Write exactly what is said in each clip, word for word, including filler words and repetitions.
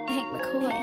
Hank McCoy.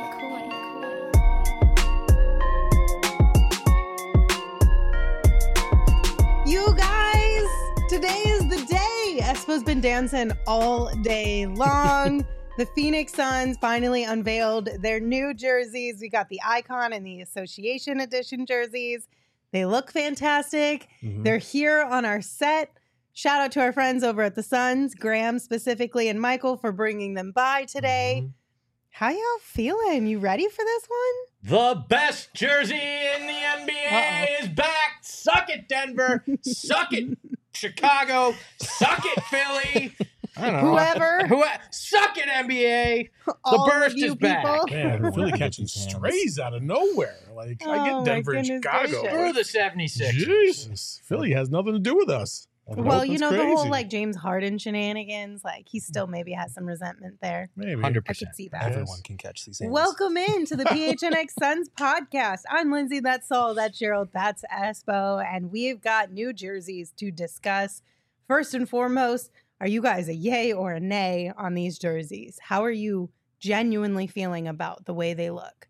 You guys, today is the day. Espo's been dancing all day long. The Phoenix Suns finally unveiled their new jerseys. We got the Icon and the Association Edition jerseys. They look fantastic. Mm-hmm. They're here on our set. Shout out to our friends over at the Suns, Graham specifically and Michael for bringing them by today. Mm-hmm. How y'all feeling? You ready for this one? The best jersey in the N B A Uh-oh. is back. Suck it, Denver. Suck it, Chicago. Suck it, Philly. I don't know. Whoever. Who, suck it, N B A. The All burst is people. back. Man, Philly catching strays out of nowhere. Like, oh, I get Denver and Chicago. Through the seventy-sixers. Jesus. Philly has nothing to do with us. Well, you know, crazy. the whole like James Harden shenanigans, like he still maybe has some resentment there. Maybe. one hundred percent. I could see that. Everyone can catch these hands. Welcome in to the P H N X Suns podcast. I'm Lindsay, that's Saul, that's Gerald, that's Espo, and we've got new jerseys to discuss. First and foremost, are you guys a yay or a nay on these jerseys? How are you genuinely feeling about the way they look?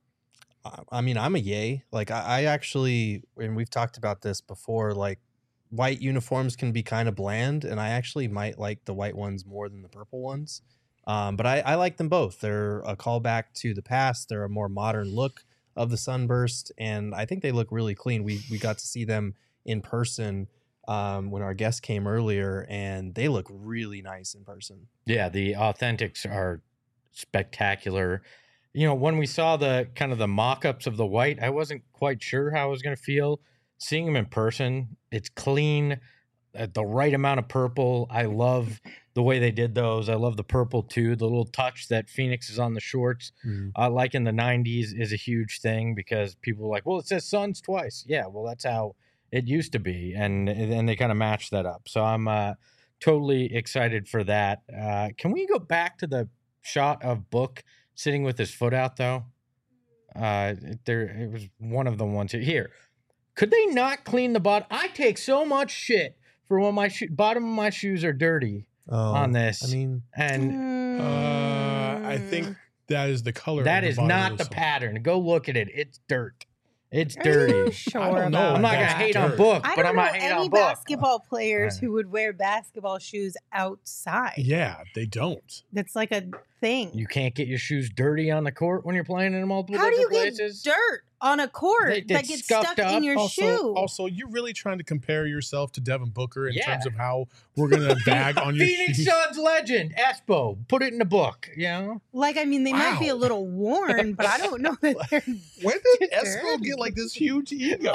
I mean, I'm a yay. Like, I, I actually, and we've talked about this before, like, white uniforms can be kind of bland, and I actually might like the white ones more than the purple ones. Um, but I, I like them both. They're a callback to the past. They're a more modern look of the Sunburst, and I think they look really clean. We we got to see them in person um, when our guest came earlier, and they look really nice in person. Yeah, the authentics are spectacular. You know, when we saw the kind of the mock-ups of the white, I wasn't quite sure how I was going to feel. Seeing them in person, it's clean, at the right amount of purple. I love the way they did those. I love the purple, too. The little touch that Phoenix is on the shorts, mm-hmm. uh, like in the nineties, is a huge thing because people are like, well, it says Suns twice. Yeah, well, that's how it used to be, and and they kind of matched that up. So I'm uh, totally excited for that. Uh, can we go back to the shot of Book sitting with his foot out, though? Uh, there, it was one of the ones here. here. Could they not clean the bottom? I take so much shit for when my sho- bottom of my shoes are dirty oh, on this. I mean, and uh, I think that is the color. That of is the not the song. pattern. Go look at it. It's dirt. It's Are dirty. you sure I don't know. about I'm not gonna that? hate dirt. on Book, I but don't I'm know not hating any on Book. basketball players Right. who would wear basketball shoes outside. Yeah, they don't. That's like a thing. You can't get your shoes dirty on the court when you're playing in multiple How do you different get places. dirt on a court They- that it's gets scuffed stuck in up. your Also, shoe? also, you're really trying to compare yourself to Devin Booker in Yeah. terms of how we're going to bag on your Phoenix shoes. Suns legend, Espo. Put it in the book, you know? Like, I mean, they might be a Wow. little worn, but I don't know that they're. When did Espo dirty. get like this huge ego?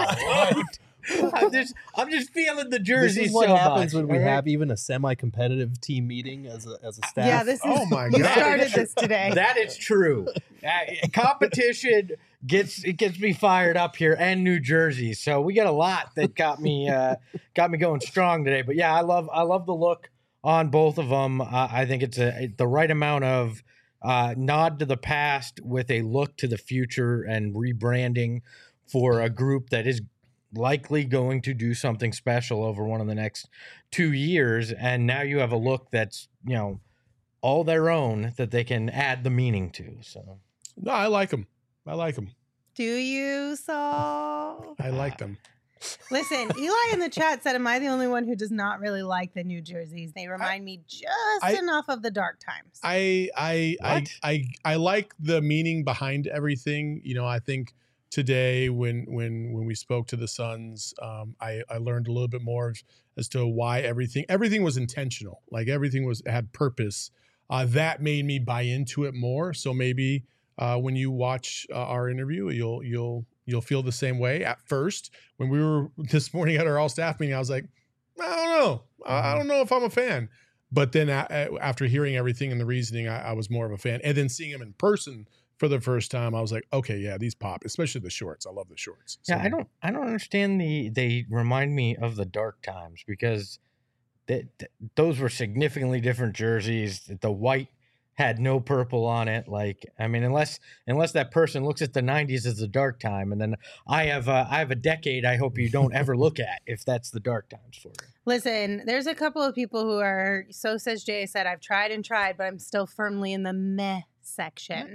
I'm just, I'm just feeling the this jersey is what so happens much, when we all right? have even a semi-competitive team meeting as a as a staff. Yeah, this is. Oh my You God. started this today. That is true. Uh, competition gets it gets me fired up here, and New Jersey. So we got a lot that got me uh, got me going strong today. But yeah, I love I love the look on both of them. Uh, I think it's a the right amount of uh, nod to the past with a look to the future and rebranding for a group that is likely going to do something special over one of the next two years. And now you have a look that's, you know, all their own that they can add the meaning to. So No, I like them. I like them. Do you, Saul? I like them. Listen, Eli in the chat said, am I the only one who does not really like the New Jerseys? They remind me just I- enough of the dark times. I I, I What? I I like the meaning behind everything. You know, I think today when when when we spoke to the Suns, um, I I learned a little bit more as to why everything everything was intentional. Like everything was had purpose. Uh, that made me buy into it more. So maybe uh, when you watch uh, our interview, you'll you'll you'll feel the same way. At first, when we were this morning at our all staff meeting, I was like, I don't know, I, I don't know if I'm a fan. But then a, a, after hearing everything and the reasoning, I, I was more of a fan. And then seeing him in person for the first time, I was like, okay, yeah, these pop, especially the shorts. I love the shorts. yeah, So- I don't I don't understand the they remind me of the dark times because that those were significantly different jerseys. The white had no purple on it. Like, I mean, unless unless that person looks at the nineties as the dark time, and then I have uh, I have a decade I hope you don't ever look at if that's the dark times for you. Listen, there's a couple of people who are, so says Jay said, I've tried and tried, but I'm still firmly in the meh section.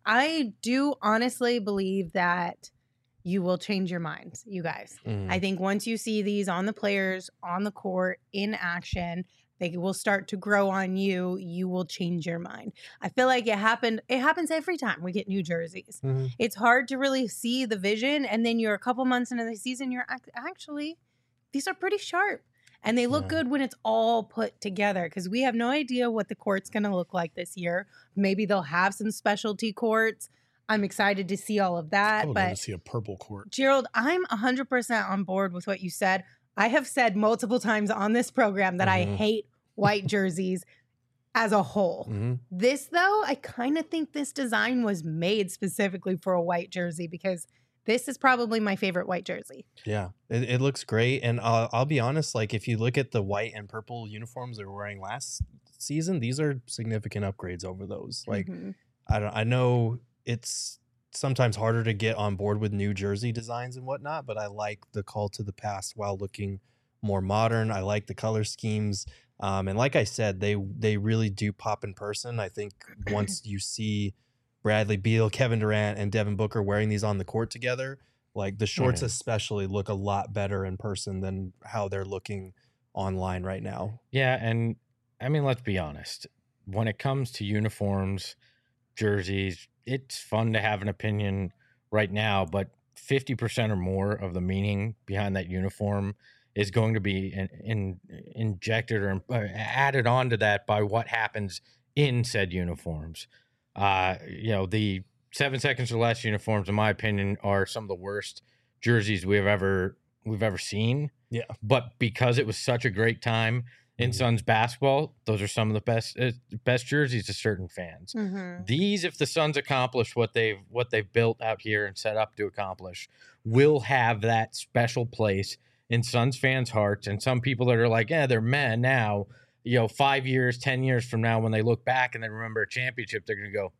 I do honestly believe that you will change your minds, you guys. Mhm. I think once you see these on the players, on the court, in action, they will start to grow on you. You will change your mind. I feel like it happened. It happens every time we get new jerseys. Mhm. It's hard to really see the vision, and then you're a couple months into the season. You're ac- actually, these are pretty sharp, and they look Yeah. good when it's all put together. Because we have no idea what the court's going to look like this year. Maybe they'll have some specialty courts. I'm excited to see all of I that. would love to But see a purple court. Gerald, I'm one hundred percent on board with what you said. I have said multiple times on this program that I Mhm. hate white jerseys as a whole. Mhm. This, though, I kind of think this design was made specifically for a white jersey because this is probably my favorite white jersey. Yeah, it, it looks great. And I'll, I'll be honest, like if you look at the white and purple uniforms they were wearing last season, these are significant upgrades over those. Like Mhm. I don't, I know it's sometimes harder to get on board with new jersey designs and whatnot, but I like the call to the past while looking more modern. I like the color schemes. Um, and like I said, they they really do pop in person. I think once you see Bradley Beal, Kevin Durant, and Devin Booker wearing these on the court together, like the shorts Mhm. especially look a lot better in person than how they're looking online right now. Yeah, and I mean, let's be honest. When it comes to uniforms, jerseys, it's fun to have an opinion right now, but fifty percent or more of the meaning behind that uniform is going to be in, in, injected or uh, added onto that by what happens in said uniforms. Uh, you know, the seven seconds or less uniforms, in my opinion, are some of the worst jerseys we've ever we've ever seen. Yeah. But because it was such a great time in Mhm. Suns basketball, those are some of the best uh, best jerseys to certain fans. Mhm. These, if the Suns accomplish what they've what they've built out here and set up to accomplish, will have that special place in Suns fans' hearts. And some people that are like, yeah, they're meh now. You know, five years, ten years from now, when they look back and they remember a championship, they're gonna go,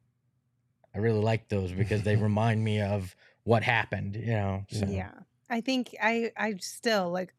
I really like those because they remind me of what happened. You know, so. Yeah. I think I I still like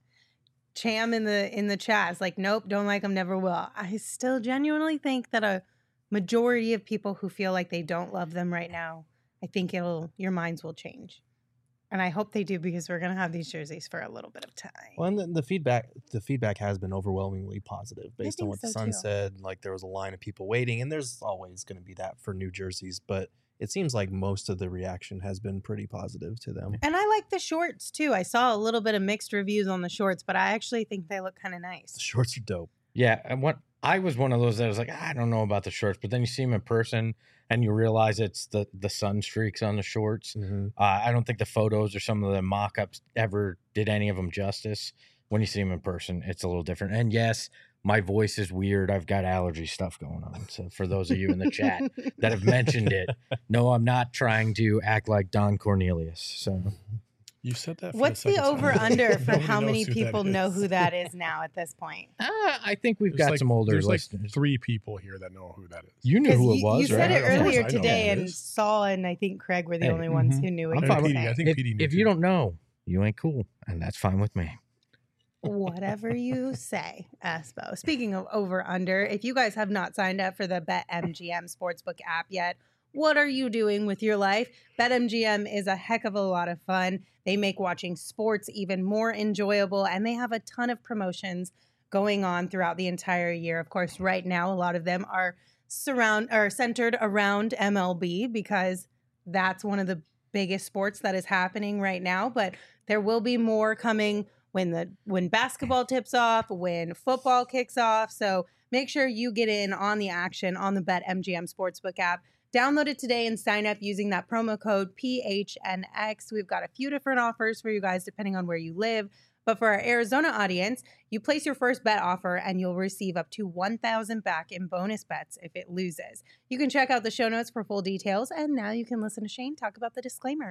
Cham in the in the chat is like, nope, don't like them, never will. I still genuinely think that a majority of people who feel like they don't love them right now, I think it'll your minds will change. And I hope they do because we're gonna have these jerseys for a little bit of time. Well, and the, the feedback the feedback has been overwhelmingly positive based on think what the so, Sun too. said. Like there was a line of people waiting, and there's always going to be that for new jerseys, but it seems like most of the reaction has been pretty positive to them. And I like the shorts too. I saw a little bit of mixed reviews on the shorts, but I actually think they look kind of The nice. shorts are dope. Yeah, and what I was one of those that was like, I don't know about the shorts, but then you see them in person and you realize it's the the sun streaks on the shorts. Mhm. Uh, I don't think the photos or some of the mock-ups ever did any of them justice. When you see them in person, it's a little different. And yes, my voice is weird. I've got allergy stuff going on. So for those of you in the chat that have mentioned it, no, I'm not trying to act like Don Cornelius. So You said that. For What's the, the second time. over under for Nobody how knows many who that people know is. who that is now at this point? uh, I think we've There's got like- some older There's like listeners. three people here that know who that is. You knew 'Cause who it you, was, you right? said it Of course earlier I know who today, it and is. Saul and I think Craig were the Hey, only ones mhm. who knew I'm what fine you with were Petey, I saying. think If, Petey knew if too. you don't know, you ain't cool, and that's fine with me. Whatever you say, Espo. Speaking of over under, if you guys have not signed up for the BetMGM Sportsbook app yet, what are you doing with your life? BetMGM is a heck of a lot of fun. They make watching sports even more enjoyable, and they have a ton of promotions going on throughout the entire year. Of course, right now, a lot of them are surround or centered around M L B because that's one of the biggest sports that is happening right now. But there will be more coming when the when basketball tips off, when football kicks off. So make sure you get in on the action on the BetMGM Sportsbook app. Download it today and sign up using that promo code P H N X. We've got a few different offers for you guys depending on where you live. But for our Arizona audience, you place your first bet offer and you'll receive up to one thousand dollars back in bonus bets if it loses. You can check out the show notes for full details. And now you can listen to Shane talk about the disclaimer.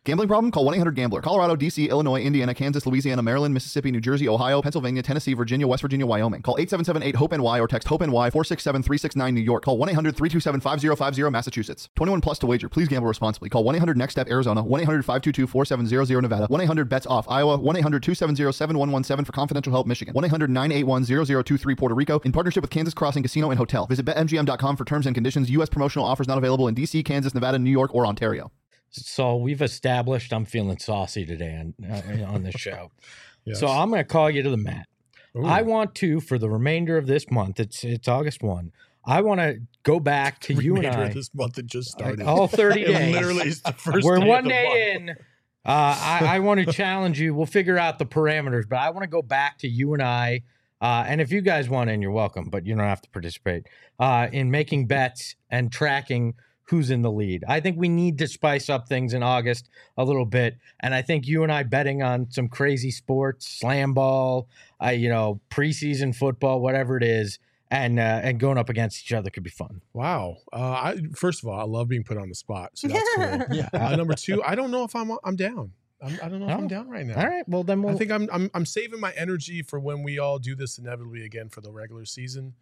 Gambling problem? Call one eight hundred gambler. Colorado, D C, Illinois, Indiana, Kansas, Louisiana, Maryland, Mississippi, New Jersey, Ohio, Pennsylvania, Tennessee, Virginia, West Virginia, Wyoming. Call eight seven seven eight hope N Y or text HOPE-NY four six seven three six nine New York. Call one eight hundred three two seven five zero five zero Massachusetts. twenty-one plus to wager. Please gamble responsibly. Call one eight hundred next step Arizona, one eight hundred five two two four seven zero zero Nevada, one eight hundred bets off Iowa, one eight hundred two seven zero seven one one seven for confidential help Michigan, one eight hundred nine eight one zero zero two three Puerto Rico in partnership with Kansas Crossing Casino and Hotel. Visit bet M G M dot com for terms and conditions. U S promotional offers not available in D C, Kansas, Nevada, New York, or Ontario. So we've established I'm feeling saucy today on, uh, on this show. Yes. So I'm going to call you to the mat. Ooh. I want to, for the remainder of this month, it's it's August first, I want to go back to you and Remainder I. of this month that just started. All thirty It days. literally is the first We're day one of the day month. in. Uh, I, I want to challenge you. We'll figure out the parameters, but I want to go back to you and I. Uh, and if you guys want in, you're welcome, but you don't have to participate uh, in making bets and tracking who's in the lead. I think we need to spice up things in August a little bit. And I think you and I betting on some crazy sports, slam ball, uh, you know, preseason football, whatever it is, and uh, and going up against each other could be fun. Wow. Uh, I, first of all, I love being put on the spot, so that's cool. Yeah. Uh, number two, I don't know if I'm I'm down. I'm, I don't know if Oh. I'm down right now. All right. Well, then we'll. I think I'm, I'm I'm saving my energy for when we all do this inevitably again for the regular season.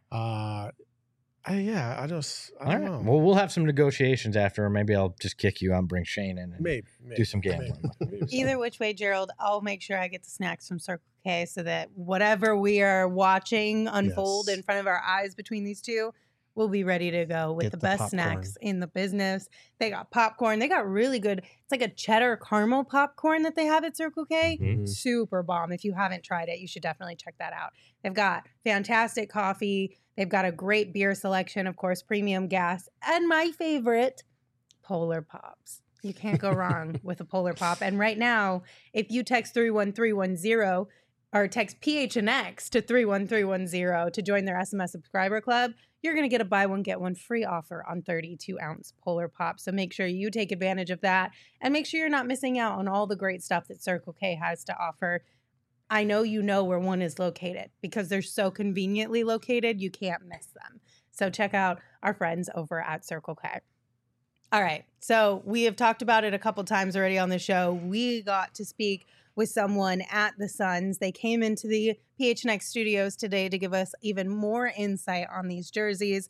Uh, I, yeah, I just I all don't right. know. Well, we'll have some negotiations after, or maybe I'll just kick you out and bring Shane in and maybe, maybe do some gambling. maybe, maybe. Either which way, Gerald, I'll make sure I get the snacks from Circle K so that whatever we are watching unfold Yes. in front of our eyes between these two, we'll be ready to go with Get the the best popcorn. snacks in the business. They got popcorn. They got really good. It's like a cheddar caramel popcorn that they have at Circle K. Mhm. Super bomb. If you haven't tried it, you should definitely check that out. They've got fantastic coffee. They've got a great beer selection, of course, premium gas, and my favorite, Polar Pops. You can't go wrong with a Polar Pop. And right now, if you text three one three one zero or text P H N X to three one three one zero to join their S M S subscriber club, you're going to get a buy one, get one free offer on thirty-two ounce Polar Pop. So make sure you take advantage of that and make sure you're not missing out on all the great stuff that Circle K has to offer. I know you know where one is located because they're so conveniently located, you can't miss them. So check out our friends over at Circle K. All right. So we have talked about it a couple times already on the show. We got to speak with someone at the Suns. They came into the P H N X studios today to give us even more insight on these jerseys.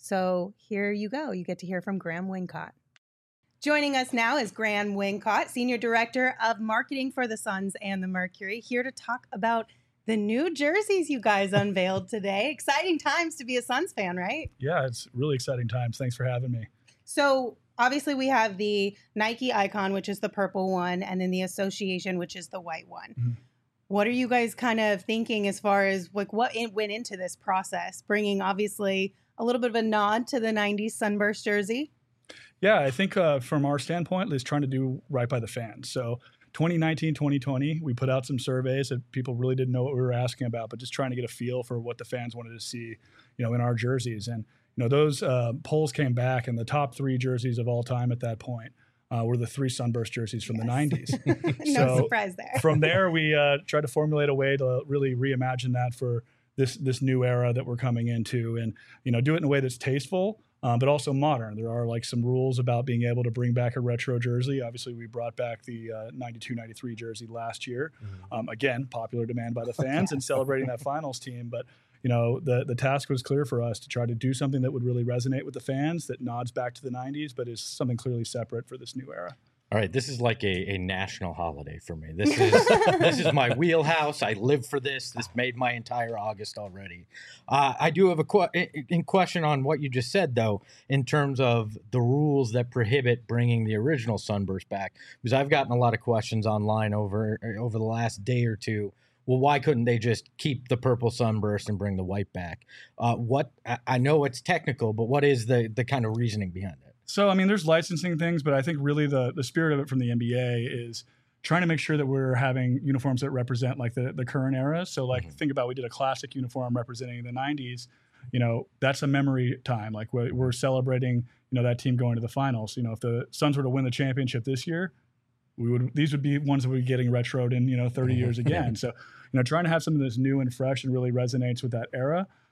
So here you go. You get to hear from Graham Wincott. Joining us now is Graham Wincott, Senior Director of Marketing for the Suns and the Mercury, here to talk about the new jerseys you guys unveiled today. Exciting times to be a Suns fan, right? Yeah, it's really exciting times. Thanks for having me. So obviously we have the Nike icon, which is the purple one, and then the association, which is the white one. Mhm. What are you guys kind of thinking as far as like what in, went into this process, bringing obviously a little bit of a nod to the nineties Sunburst jersey? Yeah, I think uh, from our standpoint, is trying to do right by the fans. So twenty nineteen, twenty twenty, we put out some surveys that people really didn't know what we were asking about, but just trying to get a feel for what the fans wanted to see, you know, in our jerseys. And, you know, those uh, polls came back, and the top three jerseys of all time at that point uh, were the three Sunburst jerseys from Yes. the nineties. No So, surprise there. From there, we uh, tried to formulate a way to really reimagine that for this this new era that we're coming into, and you know, do it in a way that's tasteful, um, but also modern. There are like some rules about being able to bring back a retro jersey. Obviously, we brought back the uh, ninety-two ninety-three jersey last year. Um, again, popular demand by the fans and celebrating that finals team. But you know, the the task was clear for us to try to do something that would really resonate with the fans, that nods back to the nineties, but is something clearly separate for this new era. All right, this is like a, a national holiday for me. This is this is my wheelhouse. I live for this. This made my entire August already. Uh, I do have a que- in question on what you just said, though, in terms of the rules that prohibit bringing the original Sunburst back, because I've gotten a lot of questions online over over the last day or two. Well, why couldn't they just keep the purple Sunburst and bring the white back? Uh, what I, I know it's technical, but what is the the kind of reasoning behind it? So, I mean, there's licensing things, but I think really the the spirit of it from the N B A is trying to make sure that we're having uniforms that represent like the, the current era. So, like, Mhm. think about we did a classic uniform representing the nineties. You know, that's a memory time. Like, we're, we're celebrating, you know, that team going to the finals. You know, if the Suns were to win the championship this year, we would these would be ones that would be getting retroed in, you know, thirty Mhm. years again. So, you know, trying to have something that's new and fresh and really resonates with that era.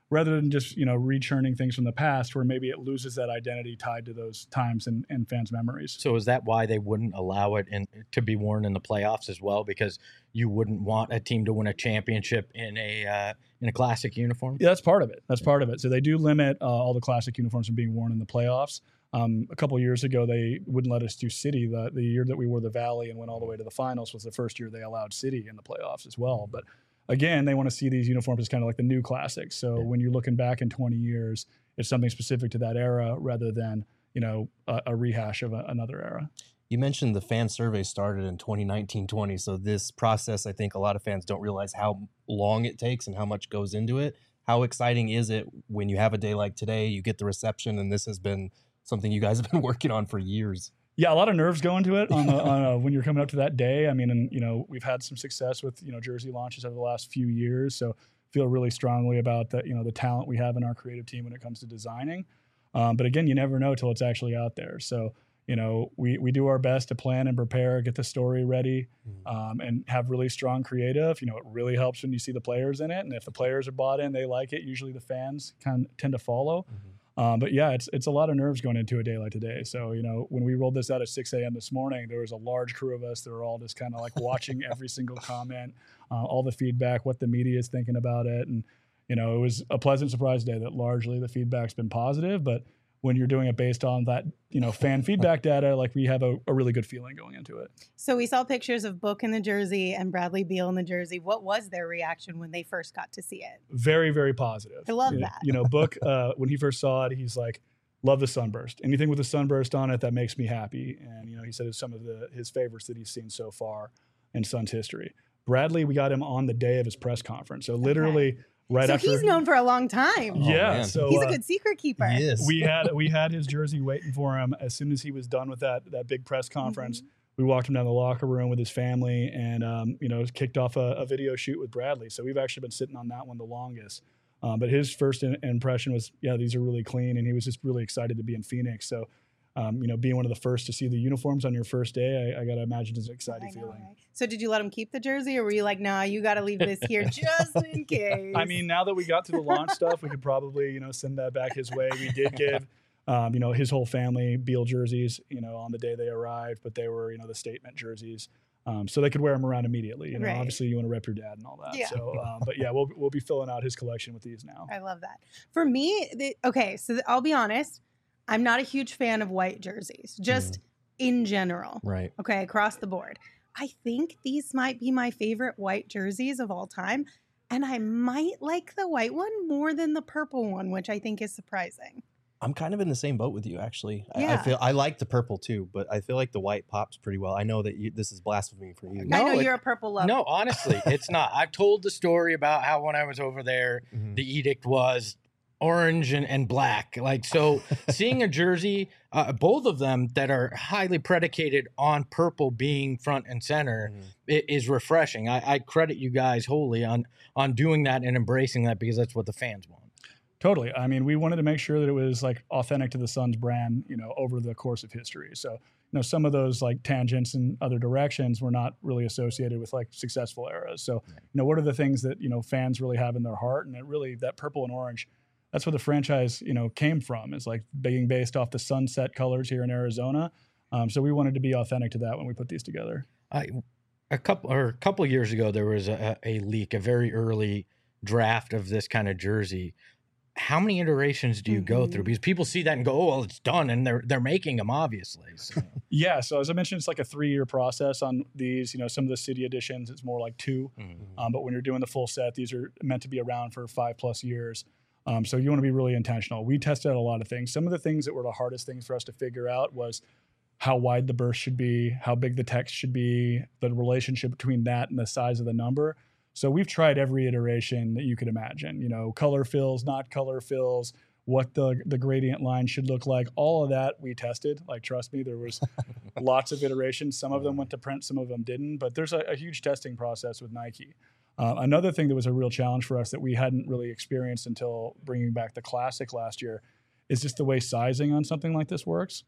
rather than just, you know, rechurning things from the past where maybe it loses that identity tied to those times and, and fans' memories. So is that why they wouldn't allow it in, to be worn in the playoffs as well? Because you wouldn't want a team to win a championship in a uh, in a classic uniform? Yeah, that's part of it. That's part of it. So they do limit uh, all the classic uniforms from being worn in the playoffs. Um, a couple of years ago, they wouldn't let us do City. The, the year that we wore the Valley and went all the way to the finals was the first year they allowed City in the playoffs as well. But again, they want to see these uniforms as kind of like the new classics. So yeah. when you're looking back in twenty years, it's something specific to that era rather than, you know, a, a rehash of a, another era. You mentioned the fan survey started in twenty nineteen twenty. So this process, I think a lot of fans don't realize how long it takes and how much goes into it. How exciting is it when you have a day like today, you get the reception, and this has been something you guys have been working on for years? Yeah, a lot of nerves go into it on, the, on a, when you're coming up to that day. I mean, and you know, we've had some success with, you know, jersey launches over the last few years, so feel really strongly about the, you know, the talent we have in our creative team when it comes to designing. Um, but again, you never know till it's actually out there. So, you know, we we do our best to plan and prepare, get the story ready, um, and have really strong creative. You know, it really helps when you see the players in it, and if the players are bought in, they like it. Usually, the fans kind of tend to follow. Mm-hmm. Um, but yeah, it's it's a lot of nerves going into a day like today. So, you know, when we rolled this out at six a.m. this morning, there was a large crew of us that were all just kind of like watching every single comment, uh, all the feedback, what the media is thinking about it. And, you know, it was a pleasant surprise day that largely the feedback's been positive. But when you're doing it based on that, you know, fan feedback data, like we have a, a really good feeling going into it. So we saw pictures of Book in the jersey and Bradley Beal in the jersey. What was their reaction when they first got to see it? Very, very positive. I love you, that. You know, Book, uh, when he first saw it, he's like, love the sunburst. Anything with a sunburst on it, that makes me happy. And, you know, he said it's some of the his favorites that he's seen so far in Suns history. Bradley, we got him on the day of his press conference. So literally... Okay. Right so after, he's known for a long time. Yeah, oh, so he's uh, a good secret keeper. Yes. we had we had his jersey waiting for him as soon as he was done with that that big press conference. Mm-hmm. We walked him down the locker room with his family, and um, you know, kicked off a, a video shoot with Bradley. So we've actually been sitting on that one the longest. Um, but his first in, impression was, yeah, these are really clean, and he was just really excited to be in Phoenix. So. Um, you know, being one of the first to see the uniforms on your first day, I, I got to imagine it's an exciting know, feeling. Right? So did you let him keep the jersey, or were you like, nah, you got to leave this here just in case? I mean, now that we got to the launch stuff, we could probably, you know, send that back his way. We did give, um, you know, his whole family Beal jerseys, you know, on the day they arrived, but they were, you know, the statement jerseys. Um, so they could wear them around immediately. You know, right. Obviously you want to rep your dad and all that. Yeah. So, um, but yeah, we'll, we'll be filling out his collection with these now. I love that. For me, the, okay, so the, I'll be honest. I'm not a huge fan of white jerseys, just mm. in general. Right. Okay, across the board. I think these might be my favorite white jerseys of all time. And I might like the white one more than the purple one, which I think is surprising. I'm kind of in the same boat with you, actually. Yeah. I, I feel I like the purple too, but I feel like the white pops pretty well. I know that you, this is blasphemy for you. No, I know it, you're a purple lover. No, honestly, it's not. I've told the story about how when I was over there, mm-hmm. the edict was orange and, and black. Like, so seeing a jersey, uh, both of them that are highly predicated on purple being front and center, mm-hmm. it is refreshing. I, I credit you guys wholly on on doing that and embracing that, because that's what the fans want. Totally. I mean, we wanted to make sure that it was like authentic to the Suns brand, you know, over the course of history. So, you know, some of those like tangents in other directions were not really associated with like successful eras. So, you know, what are the things that, you know, fans really have in their heart? And it really, that purple and orange, that's where the franchise, you know, came from. It's like being based off the sunset colors here in Arizona. Um, so we wanted to be authentic to that when we put these together. I, a couple or a couple of years ago, there was a, a leak, a very early draft of this kind of jersey. How many iterations do you mm-hmm. go through? Because people see that and go, "Oh, well, it's done," and they're they're making them, obviously. So. Yeah. So as I mentioned, it's like a three-year process on these. You know, some of the city editions, it's more like two. Mm-hmm. Um, but when you're doing the full set, these are meant to be around for five plus years. Um, so you want to be really intentional. We tested out a lot of things. Some of the things that were the hardest things for us to figure out was how wide the burst should be, how big the text should be, the relationship between that and the size of the number. So we've tried every iteration that you could imagine, you know, color fills, not color fills, what the the gradient line should look like. All of that we tested. Like, trust me, there was lots of iterations. Some of them went to print, some of them didn't. But there's a, a huge testing process with Nike. Uh, another thing that was a real challenge for us that we hadn't really experienced until bringing back the Classic last year is just the way sizing on something like this works.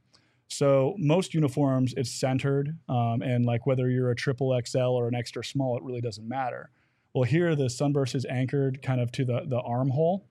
So most uniforms, it's centered, um, and like whether you're a triple X L or an extra small, it really doesn't matter. Well, here the Sunburst is anchored kind of to the, the armhole.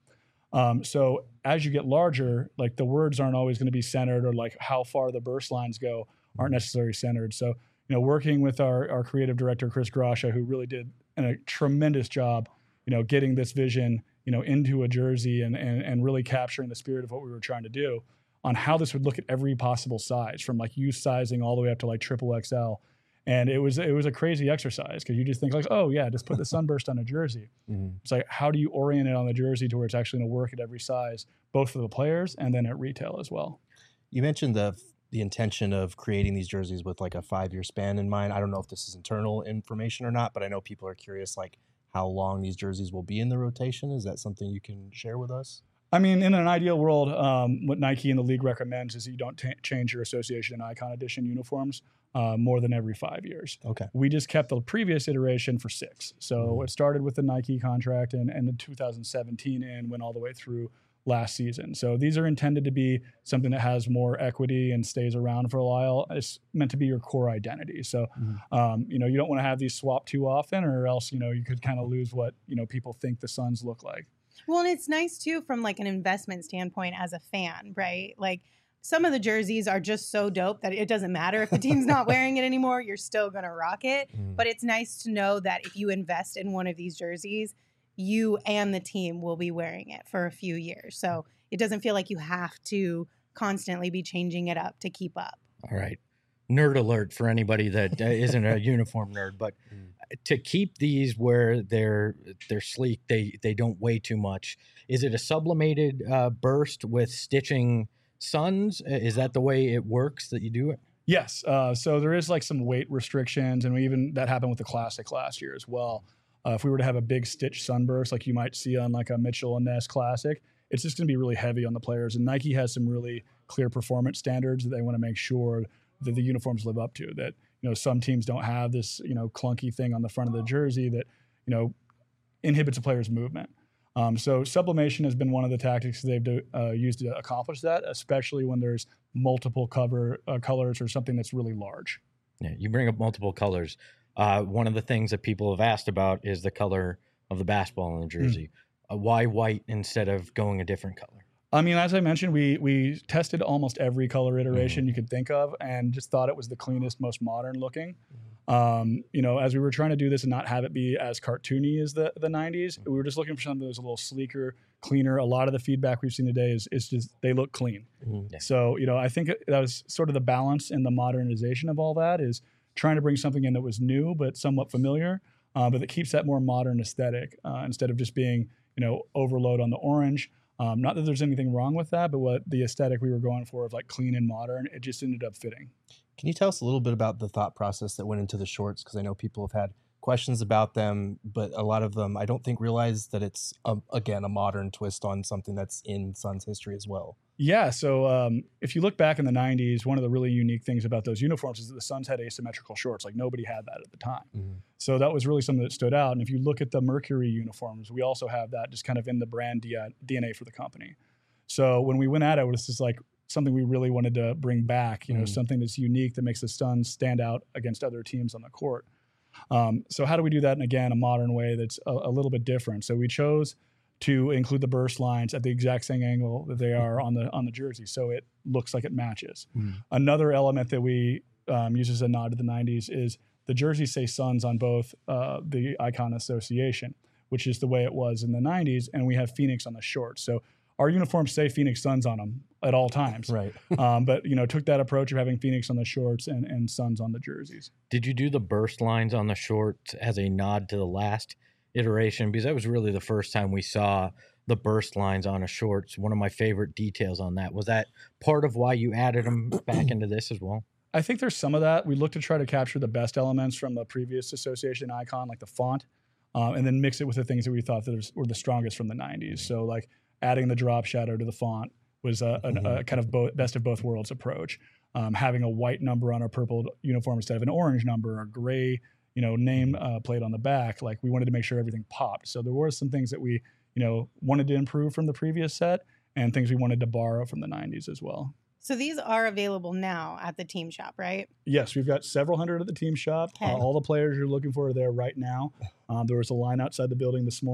Um, so as you get larger, like the words aren't always going to be centered, or like how far the burst lines go aren't necessarily centered. So, you know, working with our, our creative director, Chris Grasha, who really did a tremendous job, you know, getting this vision, you know, into a jersey and, and, and really capturing the spirit of what we were trying to do on how this would look at every possible size, from like youth sizing all the way up to like triple X L. And it was it was a crazy exercise, because you just think like, oh yeah, just put the sunburst on a jersey. Mm-hmm. It's like, how do you orient it on the jersey to where it's actually going to work at every size, both for the players and then at retail as well. You mentioned the the intention of creating these jerseys with like a five year span in mind. I don't know if this is internal information or not, but I know people are curious like how long these jerseys will be in the rotation. Is that something you can share with us? I mean, in an ideal world, um, what Nike and the league recommends is you don't t- change your association and icon edition uniforms uh, more than every five years. Okay. We just kept the previous iteration for six. So mm-hmm. it started with the Nike contract and, and the two thousand seventeen and went all the way through last season. So these are intended to be something that has more equity and stays around for a while. It's meant to be your core identity. So, mm-hmm. um, you know, you don't want to have these swap too often, or else, you know, you could kind of lose what, you know, people think the Suns look like. Well, and it's nice too from like an investment standpoint as a fan, right? Like some of the jerseys are just so dope that it doesn't matter if the team's not wearing it anymore, you're still going to rock it. Mm. But it's nice to know that if you invest in one of these jerseys, you and the team will be wearing it for a few years. So it doesn't feel like you have to constantly be changing it up to keep up. All right. Nerd alert for anybody that isn't a uniform nerd, but to keep these where they're they're sleek, they they don't weigh too much. Is it a sublimated uh, burst with stitching Suns? Is that the way it works that you do it? Yes. Uh, so there is like some weight restrictions, and we even that happened with the Classic last year as well. Uh, if we were to have a big stitch sunburst like you might see on like a Mitchell and Ness Classic, it's just going to be really heavy on the players. And Nike has some really clear performance standards that they want to make sure that the uniforms live up to. That, you know, some teams don't have this, you know, clunky thing on the front of the jersey that, you know, inhibits a player's movement. Um, so sublimation has been one of the tactics they've do, uh, used to accomplish that, especially when there's multiple cover uh, colors or something that's really large. Yeah, you bring up multiple colors. Uh, one of the things that people have asked about is the color of the basketball on the jersey. Mm. Uh, why white instead of going a different color? I mean, as I mentioned, we we tested almost every color iteration mm. you could think of, and just thought it was the cleanest, most modern looking. Mm. Um, you know, as we were trying to do this and not have it be as cartoony as the, the nineties, mm. we were just looking for something that was a little sleeker, cleaner. A lot of the feedback we've seen today is, is just they look clean. Mm. Yeah. So, you know, I think that was sort of the balance in the modernization of all that, is trying to bring something in that was new but somewhat familiar, uh, but that keeps that more modern aesthetic uh, instead of just being, you know, overload on the orange. Um, not that there's anything wrong with that, but what the aesthetic we were going for of like clean and modern, it just ended up fitting. Can you tell us a little bit about the thought process that went into the shorts? Because I know people have had questions about them, but a lot of them I don't think realize that it's, a, again, a modern twist on something that's in Suns history as well. Yeah, so um, if you look back in the nineties, one of the really unique things about those uniforms is that the Suns had asymmetrical shorts. Like nobody had that at the time. Mm-hmm. So that was really something that stood out. And if you look at the Mercury uniforms, we also have that just kind of in the brand D N A for the company. So when we went at it, it was just like something we really wanted to bring back, you know, mm-hmm. something that's unique that makes the Suns stand out against other teams on the court. Um, so how do we do that in, again, a modern way that's a, a little bit different? So we chose to include the burst lines at the exact same angle that they are on the on the jersey, so it looks like it matches. Mm. Another element that we um, use as a nod to the nineties is the jerseys say Suns on both uh, the icon association, which is the way it was in the nineties, and we have Phoenix on the shorts. So our uniforms say Phoenix Suns on them at all times. Right. um, but, you know, took that approach of having Phoenix on the shorts and, and Suns on the jerseys. Did you do the burst lines on the shorts as a nod to the last iteration? Because that was really the first time we saw the burst lines on a shorts. One of my favorite details on that. Was that part of why you added them back into this as well? I think there's some of that. We look to try to capture the best elements from the previous association icon, like the font, um, and then mix it with the things that we thought that were the strongest from the nineties. So like adding the drop shadow to the font was a, a, a kind of both, best of both worlds approach. Um, having a white number on our purple uniform instead of an orange number, or gray, you know, name uh, plate on the back. Like we wanted to make sure everything popped. So there were some things that we, you know, wanted to improve from the previous set, and things we wanted to borrow from the nineties as well. So these are available now at the team shop, right? Yes, we've got several hundred at the team shop. Okay. Uh, all the players you're looking for are there right now. Um, there was a line outside the building this morning.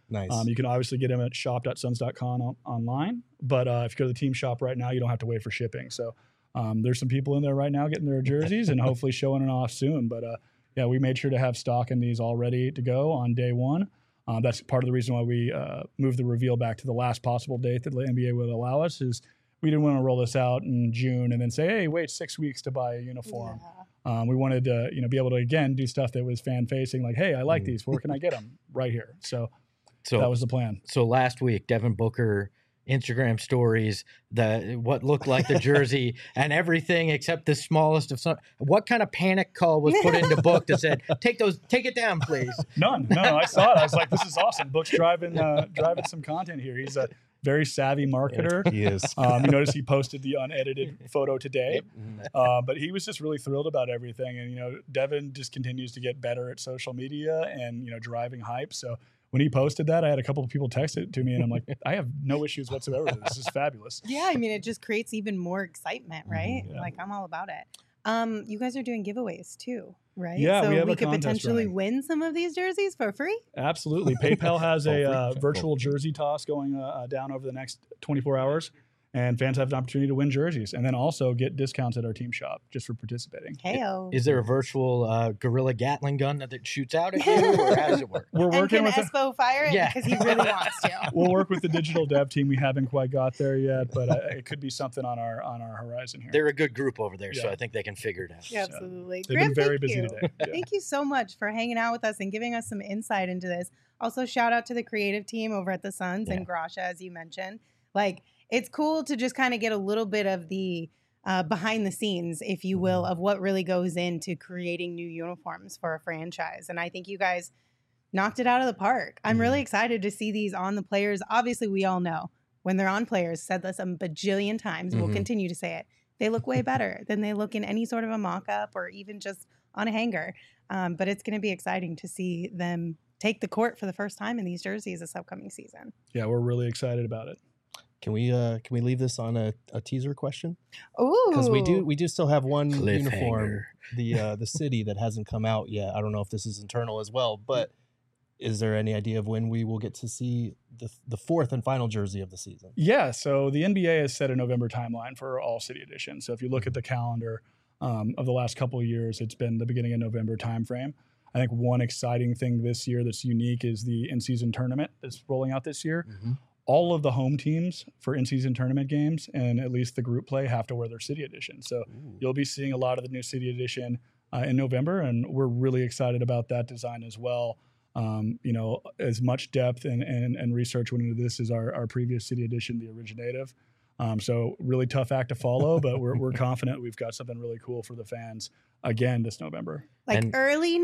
Nice. Um, you can obviously get them at shop dot suns dot com on, online, but uh, if you go to the team shop right now, you don't have to wait for shipping. So um, there's some people in there right now getting their jerseys and hopefully showing it off soon. But uh, yeah, we made sure to have stock in these all ready to go on day one. Um, that's part of the reason why we uh, moved the reveal back to the last possible date that the N B A would allow us. Is we didn't want to roll this out in June and then say, hey, wait six weeks to buy a uniform. Yeah. Um, we wanted to, you know, be able to again do stuff that was fan facing, like, hey, I like Mm. these. Where can I get them? Right here. So, So that was the plan. so last week, Devin Booker Instagram stories, the what looked like the jersey and everything except the smallest of some. What kind of panic call was put into Book that said, "Take those, take it down, please"? None. No, I saw it. I was like, this is awesome. Book's driving uh, driving some content here. He's a very savvy marketer. He is. Um, you notice he posted the unedited photo today, Mhm. uh, but he was just really thrilled about everything. And you know, Devin just continues to get better at social media and you know driving hype. So when he posted that, I had a couple of people text it to me, and I'm like, I have no issues whatsoever with this. This is fabulous. Yeah, I mean, it just creates even more excitement, right? Yeah. Like, I'm all about it. Um, you guys are doing giveaways too, right? Yeah, so we have a could contest potentially running. win some of these jerseys for free. Absolutely. PayPal has Oh, a free. uh, Check. virtual jersey toss going uh, uh, down over the next twenty-four hours, and fans have an opportunity to win jerseys and then also get discounts at our team shop just for participating. Heyo. Is there a virtual uh, Gorilla Gatling gun that it shoots out at you, or how does it work? We're And working can with. A, Espo fire it Yeah. because he really wants to. we'll work with the digital dev team. We haven't quite got there yet, but uh, it could be something on our on our horizon here. They're a good group over there, so Yeah. I think they can figure it out. Yeah, absolutely. They've Graham, been very thank busy you. today. Yeah. Thank you so much for hanging out with us and giving us some insight into this. Also, shout out to the creative team over at the Suns and Grasha, as you mentioned. Like, it's cool to just kind of get a little bit of the uh, behind the scenes, if you will, of what really goes into creating new uniforms for a franchise. And I think you guys knocked it out of the park. I'm really excited to see these on the players. Obviously, we all know when they're on players, said this a bajillion times, we'll Mhm. continue to say it. They look way better than they look in any sort of a mock-up or even just on a hanger. Um, but it's going to be exciting to see them take the court for the first time in these jerseys this upcoming season. Yeah, we're really excited about it. Can we uh can we leave this on a, a teaser question? Ooh, Because we do we do still have one Cliffhanger. uniform, the uh, the city that hasn't come out yet. I don't know if this is internal as well, but is there any idea of when we will get to see the the fourth and final jersey of the season? Yeah, so the N B A has set a November timeline for all city editions. So if you look at the calendar um, of the last couple of years, it's been the beginning of November timeframe. I think one exciting thing this year that's unique is the in-season tournament that's rolling out this year. Mhm. All of the home teams for in-season tournament games and at least the group play have to wear their city edition. So Ooh. you'll be seeing a lot of the new city edition uh, in November, and we're really excited about that design as well. Um, you know, as much depth and, and, and research went into this as our, our previous city edition, the originative. Um, so really tough act to follow, but we're, we're confident we've got something really cool for the fans again this November. like And- early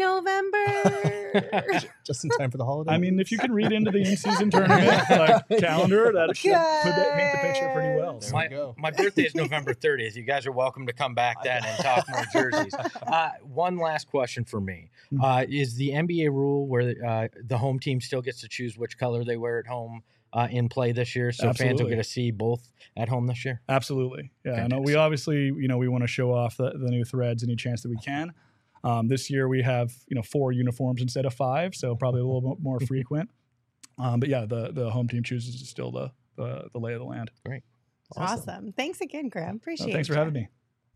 November. Just in time for the holiday. I mean, if you can read into the in-season tournament like calendar, that should put that, paint the picture pretty well. There So. we My, go. my birthday is November thirtieth. You guys are welcome to come back then and talk more jerseys. Uh, one last question for me. Uh, is the N B A rule where uh, the home team still gets to choose which color they wear at home uh, in play this year? So fans will Absolutely. get to see both at home this year? Absolutely. Yeah. I know we Fantastic. obviously, you know, we want to show off the, the new threads any chance that we can. Um, this year we have, you know, four uniforms instead of five, so probably a little bit more frequent. Um, but yeah, the the home team chooses is still the, the the lay of the land. Awesome. Thanks again, Graham. So Appreciate it. thanks for having me.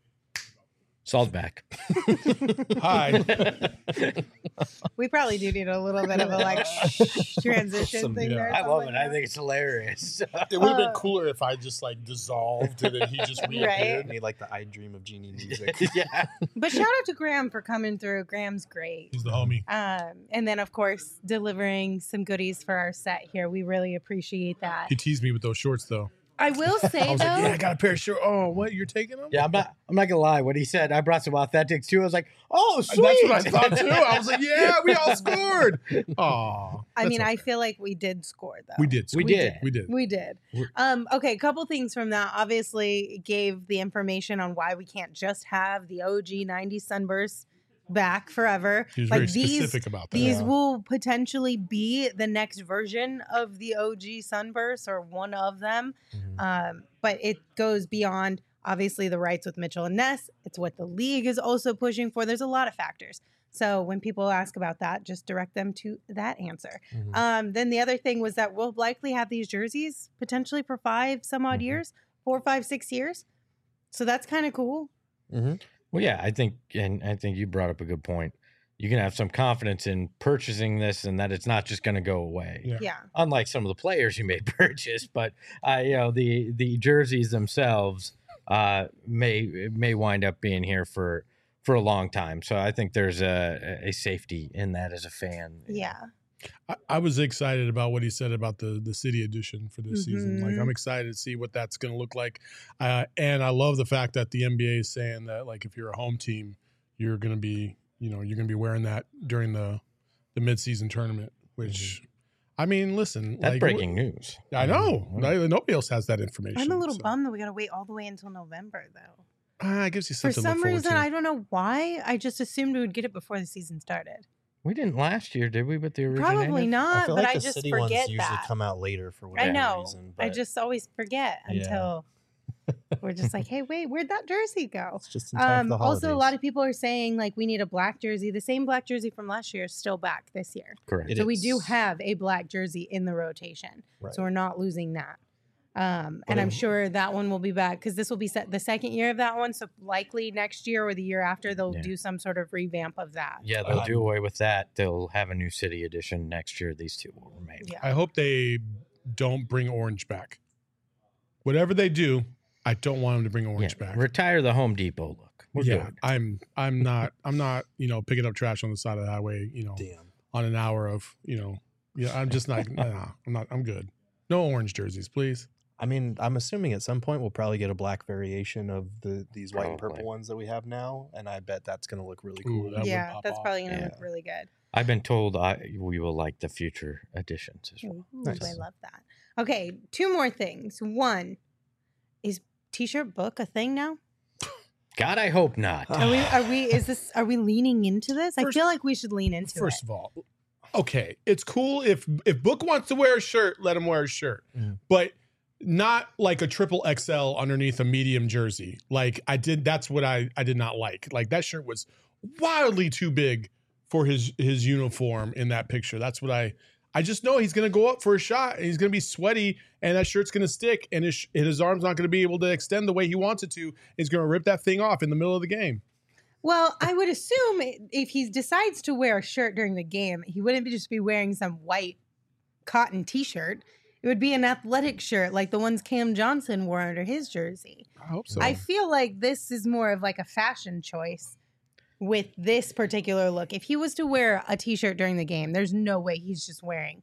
Saul's back. Hi. We probably do need a little bit of a like transition Some- thing yeah. there. I love Saul, it. I think it's hilarious. It would have been Uh, cooler if I just like dissolved and then he just reappeared. Made like the I Dream of Genie music. yeah. But shout out to Graham for coming through. Graham's great. He's the homie. Um, and then, of course, delivering some goodies for our set here. We really appreciate that. He teased me with those shorts though. I will say, I was though, like, yeah, I got a pair of shorts. Oh, what? You're taking them? Yeah, I'm not. I'm not gonna lie. What he said, I brought some authentics too. I was like, "Oh, And sweet!" that's what I thought too. I was like, yeah, we all scored. Aw. I mean, That's I feel like we did score, though. We did. We score. did. We did. We did. We're- Um, okay, a couple things from that. Obviously, it gave the information on why we can't just have the O G ninety Sunburst back forever. He was Like very these- specific about that. These Yeah. will potentially be the next version of the O G Sunburst or one of them. Mhm. Um, but it goes beyond obviously the rights with Mitchell and Ness. It's what the league is also pushing for. There's a lot of factors. So when people ask about that, just direct them to that answer. Mhm. Um, then the other thing was that we'll likely have these jerseys potentially for five some odd Mhm. years, four, five, six years. So that's kind of cool. Mhm. Well, yeah, I think, and I think you brought up a good point. You can have some confidence in purchasing this, and that it's not just going to go away. Yeah. Yeah. Unlike some of the players you may purchase, but uh, you know the the jerseys themselves uh, may may wind up being here for for a long time. So I think there's a a safety in that as a fan. Yeah. I, I was excited about what he said about the the city edition for this season. Like, Mhm. I'm excited to see what that's going to look like. Uh, and I love the fact that the N B A is saying that, like, if you're a home team, you're going to be, you know, you're going to be wearing that during the the midseason tournament. Which, I mean, listen, That's like, breaking news. I know. Mhm. No- Nobody else has that information. I'm a little so. bummed that we got to wait all the way until November, though. Ah, it gives you For something to some look forward reason, to. I don't know why. I just assumed we would get it before the season started. We didn't last year, did we? With the originator? Probably I not, feel but like I the just city ones forget usually that. come out later for I whatever know. reason. I but just always forget Yeah. until we're just like, hey, wait, where'd that jersey go? it's just in time Um, for the also, a lot holidays. of people are saying like we need a black jersey. The same black jersey from last year is still back this year. Correct. It So we do is. have a black jersey in the rotation. Right. So we're not losing that. Um, and I'm Whatever. sure that one will be back because this will be set the second year of that one. So likely next year or the year after, they'll Yeah. do some sort of revamp of that. Yeah, they'll Um, do away with that. They'll have a new city edition next year. These two will remain. Yeah. I hope they don't bring orange back. Whatever they do, I don't want them to bring orange Yeah, back. retire the Home Depot look. We're yeah, good. I'm I'm not I'm not, you know, picking up trash on the side of the highway, you know, Damn. on an hour of, you know, yeah, I'm just not nah, I'm not I'm good. No orange jerseys, please. I mean, I'm assuming at some point we'll probably get a black variation of the these white and Probably. purple ones that we have now, and I bet that's going to look really Ooh, cool. that would yeah, pop that's off. probably going to Yeah. look really good. I've been told I we will like the future editions as well. Ooh, Nice. I love that. Okay, two more things. One, is t-shirt book a thing now? God, I hope not. Are we? Are we? Is this? Are we leaning into this? I First- feel like we should lean into First it. of all, okay, it's cool if if Book wants to wear a shirt, let him wear a shirt. Mm. But not like a triple X L underneath a medium jersey. Like I did that's what I I did not like. Like that shirt was wildly too big for his his uniform in that picture. That's what I I just know he's going to go up for a shot and he's going to be sweaty and that shirt's going to stick and his and his arm's not going to be able to extend the way he wants it to. He's going to rip that thing off in the middle of the game. Well, I would assume if he decides to wear a shirt during the game, he wouldn't just be wearing some white cotton T-shirt. It would be an athletic shirt like the ones Cam Johnson wore under his jersey. I hope so. I feel like this is more of like a fashion choice with this particular look. If he was to wear a T-shirt during the game, there's no way he's just wearing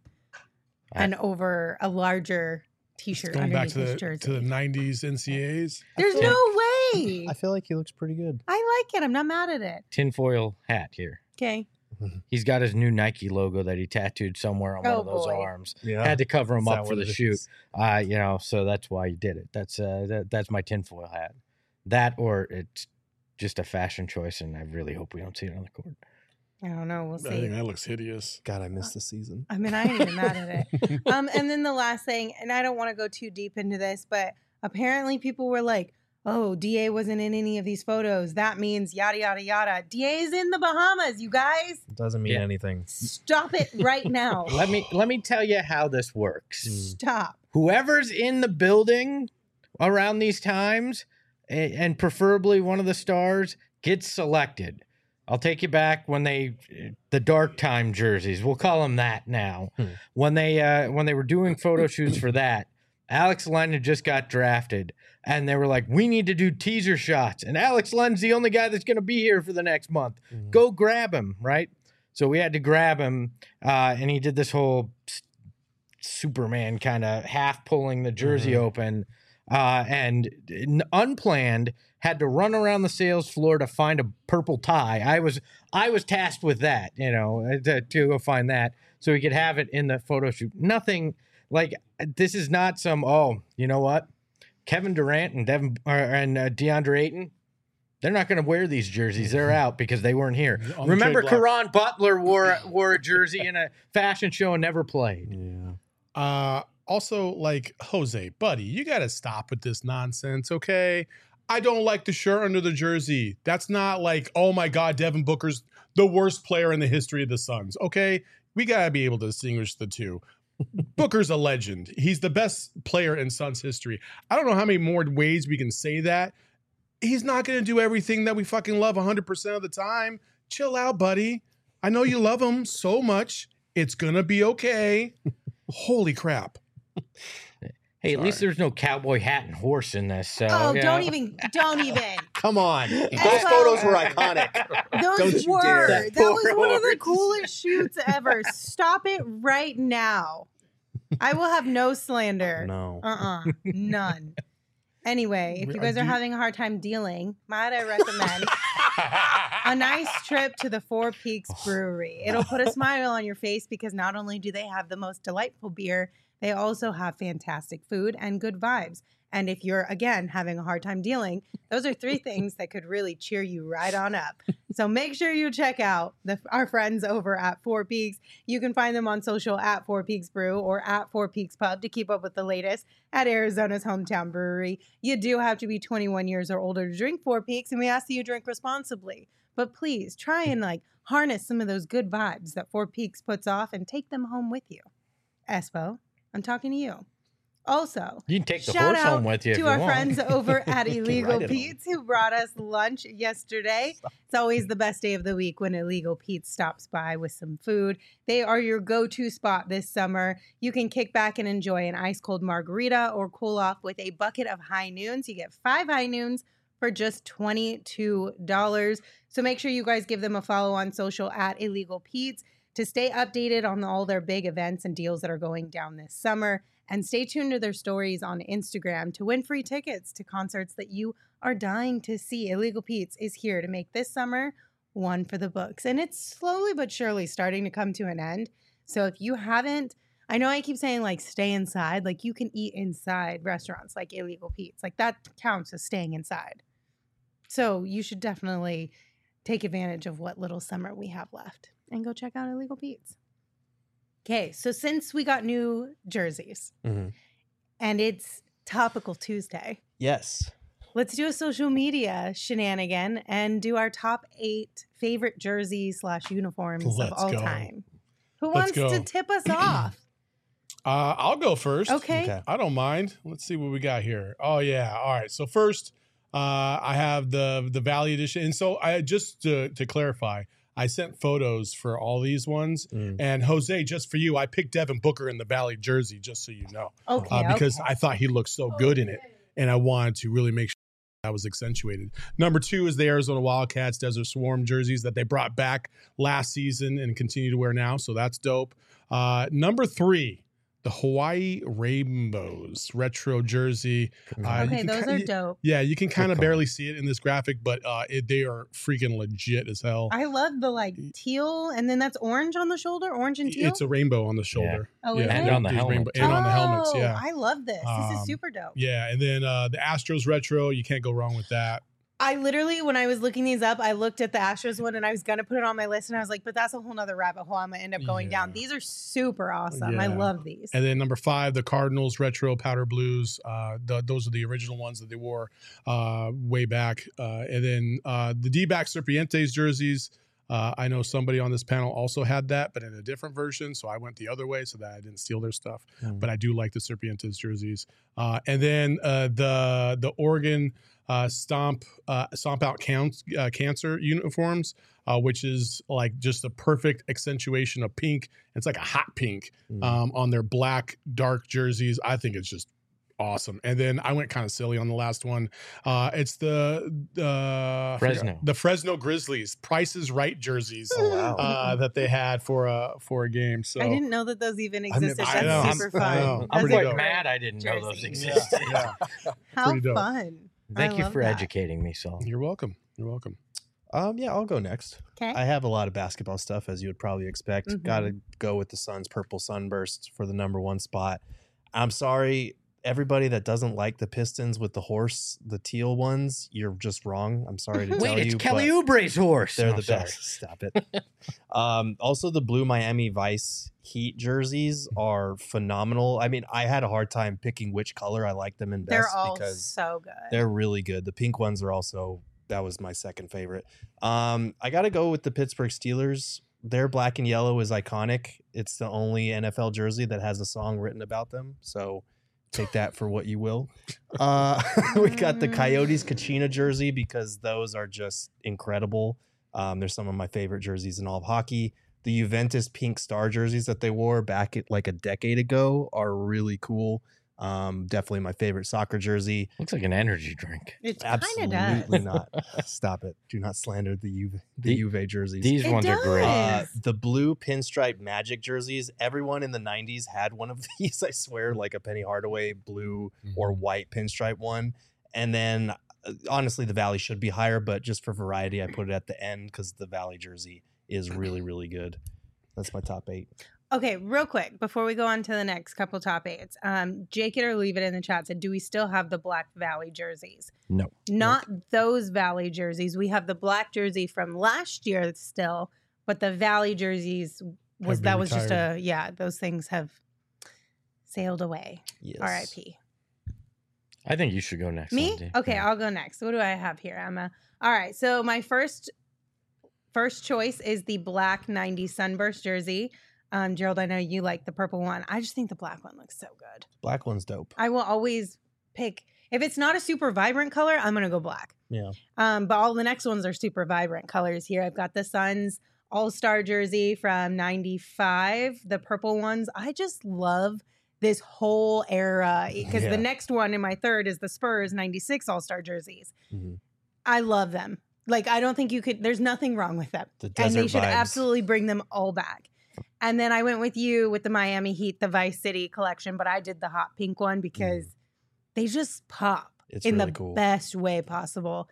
an over a larger T-shirt Going back underneath to his the jersey. to the nineties N C A As. There's feel no way. I feel like he looks pretty good. I like it. I'm not mad at it. Tinfoil hat here. Okay. He's got his new Nike logo that he tattooed somewhere on Oh, one of those boy. arms. Yeah. Had to cover him Is that up for what the it shoot. is? Uh, you know, so that's why he did it. That's uh, that, that's my tinfoil hat. That or it's just a fashion choice, and I really hope we don't see it on the court. I don't know. We'll I think see. that looks hideous. God, I missed the season. I mean, I ain't even mad at it. Um, and then the last thing, and I don't want to go too deep into this, but apparently people were like, oh, D A wasn't in any of these photos. That means yada, yada, yada. D A is in the Bahamas, you guys. Doesn't mean Yeah. anything. Stop it right now. Let me let me tell you how this works. Mm. Stop. Whoever's in the building around these times, a- and preferably one of the stars, gets selected. I'll take you back when they the dark time jerseys. We'll call them that now. Hmm. When they uh, when they were doing photo shoots for that, Alex Len had just got drafted, and they were like, "We need to do teaser shots." And Alex Len's the only guy that's going to be here for the next month. Mhm. Go grab him, right? So we had to grab him, uh, and he did this whole s- Superman kind of half pulling the jersey Mhm. open, uh, and n- unplanned had to run around the sales floor to find a purple tie. I was I was tasked with that, you know, uh, to, to go find that so we could have it in the photo shoot. Nothing like this is not some. Oh, you know what? Kevin Durant and Devin or, and uh, DeAndre Ayton. They're not going to wear these jerseys. They're out because they weren't here. On the Remember, trade block. Caron Butler wore wore a jersey in a fashion show and never played. Yeah. Uh, also, like Jose, buddy, you got to stop with this nonsense, okay? I don't like the shirt under the jersey. That's not like, oh my God, Devin Booker's the worst player in the history of the Suns. Okay, we got to be able to distinguish the two. Booker's a legend. He's the best player in Suns history. I don't know how many more ways we can say that. He's not going to do everything that we fucking love one hundred percent of the time. Chill out, buddy. I know you love him so much. It's going to be okay. Holy crap. Hey, Sorry. at least there's no cowboy hat and horse in this. So, Oh, yeah. don't even, don't even. Come on. Those Espo- photos were iconic. Those Don't you were. dare. That, That was one of the horse. coolest shoots ever. Stop it right now. I will have no slander. No. Uh-uh. None. Anyway, if you I guys are do- having a hard time dealing, might I recommend a nice trip to the Four Peaks Brewery. It'll put a smile on your face because not only do they have the most delightful beer, they also have fantastic food and good vibes. And if you're, again, having a hard time dealing, those are three things that could really cheer you right on up. So make sure you check out the, our friends over at Four Peaks. You can find them on social at Four Peaks Brew or at Four Peaks Pub to keep up with the latest at Arizona's hometown brewery. You do have to be twenty-one years or older to drink Four Peaks, and we ask that you drink responsibly. But please try and like harness some of those good vibes that Four Peaks puts off and take them home with you. Espo, I'm talking to you. Also, You can take the shout horse out home with you if to you our want. friends over at Illegal ride it home. Pete's who brought us lunch yesterday. It's always the best day of the week when Illegal Pete's stops by with some food. They are your go-to spot this summer. You can kick back and enjoy an ice cold margarita or cool off with a bucket of high noons. You get five high noons for just twenty-two dollars. So make sure you guys give them a follow on social at Illegal Pete's to stay updated on all their big events and deals that are going down this summer. And stay tuned to their stories on Instagram to win free tickets to concerts that you are dying to see. Illegal Pete's is here to make this summer one for the books. And it's slowly but surely starting to come to an end. So if you haven't, I know I keep saying like stay inside, like you can eat inside restaurants like Illegal Pete's. Like that counts as staying inside. So you should definitely take advantage of what little summer we have left and go check out Illegal Pete's. Okay, so since we got new jerseys Mhm. and it's Topical Tuesday, Yes. let's do a social media shenanigan and do our top eight favorite jerseys slash uniforms Let's of all go. time. Who Let's wants to go. tip us off? Uh, I'll go first. Okay. Okay. I don't mind. Let's see what we got here. Oh yeah. All right. So first, uh, I have the the Valley Edition, and so I just to, to clarify, I sent photos for all these ones, Mm. and Jose, just for you, I picked Devin Booker in the Valley jersey, just so you know, Okay. uh, because okay. I thought he looked so good in it, and I wanted to really make sure that was accentuated. Number two is the Arizona Wildcats Desert Swarm jerseys that they brought back last season and continue to wear now, so that's dope. Uh, number three, the Hawaii Rainbows retro jersey. Uh, you Okay, can those ki- are y- dope. Yeah, you can kind of call. barely see it in this graphic, but uh, it, they are freaking legit as hell. I love the like teal, and then that's orange on the shoulder, orange and teal. It's a rainbow on the shoulder. Oh, yeah, is And it? on the these helmet. rainbow- and on the helmets, Oh, yeah. I love this. This Um, is super dope. Yeah, and then uh, the Astros retro, you can't go wrong with that. I literally, when I was looking these up, I looked at the Astros one and I was going to put it on my list. And I was like, but that's a whole nother rabbit hole. I'm going to end up going down. Yeah. These are super awesome. I Yeah. love these. And then number five, the Cardinals retro powder blues. Uh, the, those are the original ones that they wore uh, way back. Uh, and then uh, the D-back Serpientes jerseys. Uh, I know somebody on this panel also had that, but in a different version. So I went the other way so that I didn't steal their stuff. Mm. But I do like the Serpientes jerseys. Uh, and then uh, the the Oregon uh, Stomp uh, Stomp Out Counts, uh, Cancer uniforms, uh, which is like just a perfect accentuation of pink. It's like a hot pink Mm. um, on their black dark jerseys. I think it's just awesome. And then I went kind of silly on the last one. Uh, it's the uh, I forgot- Fresno. the Fresno Grizzlies Price is Right jerseys Oh, wow. uh, that they had for a for a game. So I didn't know that those even I've never existed. seen That's those. super I fun. know. That's I'm Pretty quite dope. mad I didn't know those Jersey. existed. yeah. How Pretty dope. fun. Thank I you love for that. educating me, Saul. You're welcome. You're welcome. Um, yeah, I'll go next. Okay. I have a lot of basketball stuff, as you would probably expect. Mhm. Got to go with the Suns' purple sunburst for the number one spot. I'm sorry, everybody that doesn't like the Pistons with the horse, the teal ones, you're just wrong. I'm sorry to Wait, tell it's you. Kelly but Oubre's horse. They're Oh, the sorry. best. Stop it. um, also, the blue Miami Vice Heat jerseys are phenomenal. I mean, I had a hard time picking which color I like them in best They're all because so good. they're really good. The pink ones are also, that was my second favorite. Um, I got to go with the Pittsburgh Steelers. Their black and yellow is iconic. It's the only N F L jersey that has a song written about them. So take that for what you will. Uh, we got the Coyotes Kachina jersey because those are just incredible. Um, they're some of my favorite jerseys in all of hockey. The Juventus pink star jerseys that they wore back at like a decade ago are really cool. Um, definitely my favorite soccer jersey. Looks like an energy drink. It kind of does. Absolutely not. Stop it. Do not slander the Juve, the, The- Juve jerseys. These It ones are great. does. Uh, the blue pinstripe Magic jerseys. Everyone in the nineties had one of these. I swear, like a Penny Hardaway blue or white pinstripe one. And then, uh, honestly, the Valley should be higher, but just for variety, I put it at the end because the Valley jersey is really, really good. That's my top eight. Okay, real quick before we go on to the next couple top eights, um, Jake it or leave it in the chat said, "Do we still have the Black Valley jerseys?" No. Not those Valley jerseys. We have the black jersey from last year still, but the Valley jerseys was Have been that was just retired. a yeah. Those things have sailed away. Yes. R I P. I think you should go next. Me? Lindsay. Okay, Yeah. I'll go next. What do I have here, Emma? All right, so my first first choice is the black nineties Sunburst jersey. Um, Gerald, I know you like the purple one. I just think the black one looks so good. Black one's dope. I will always pick if it's not a super vibrant color, I'm gonna go black. Yeah. Um, but all the next ones are super vibrant colors here. I've got the Suns All-Star jersey from ninety-five, the purple ones. I just love this whole era because Yeah. the next one in my third is the Spurs ninety-six All-Star jerseys. Mhm. I love them. Like, I don't think you could, there's nothing wrong with them. The And desert they should vibes. absolutely bring them all back. And then I went with you with the Miami Heat, the Vice City collection, but I did the hot pink one because they just pop It's in really the cool. best way possible.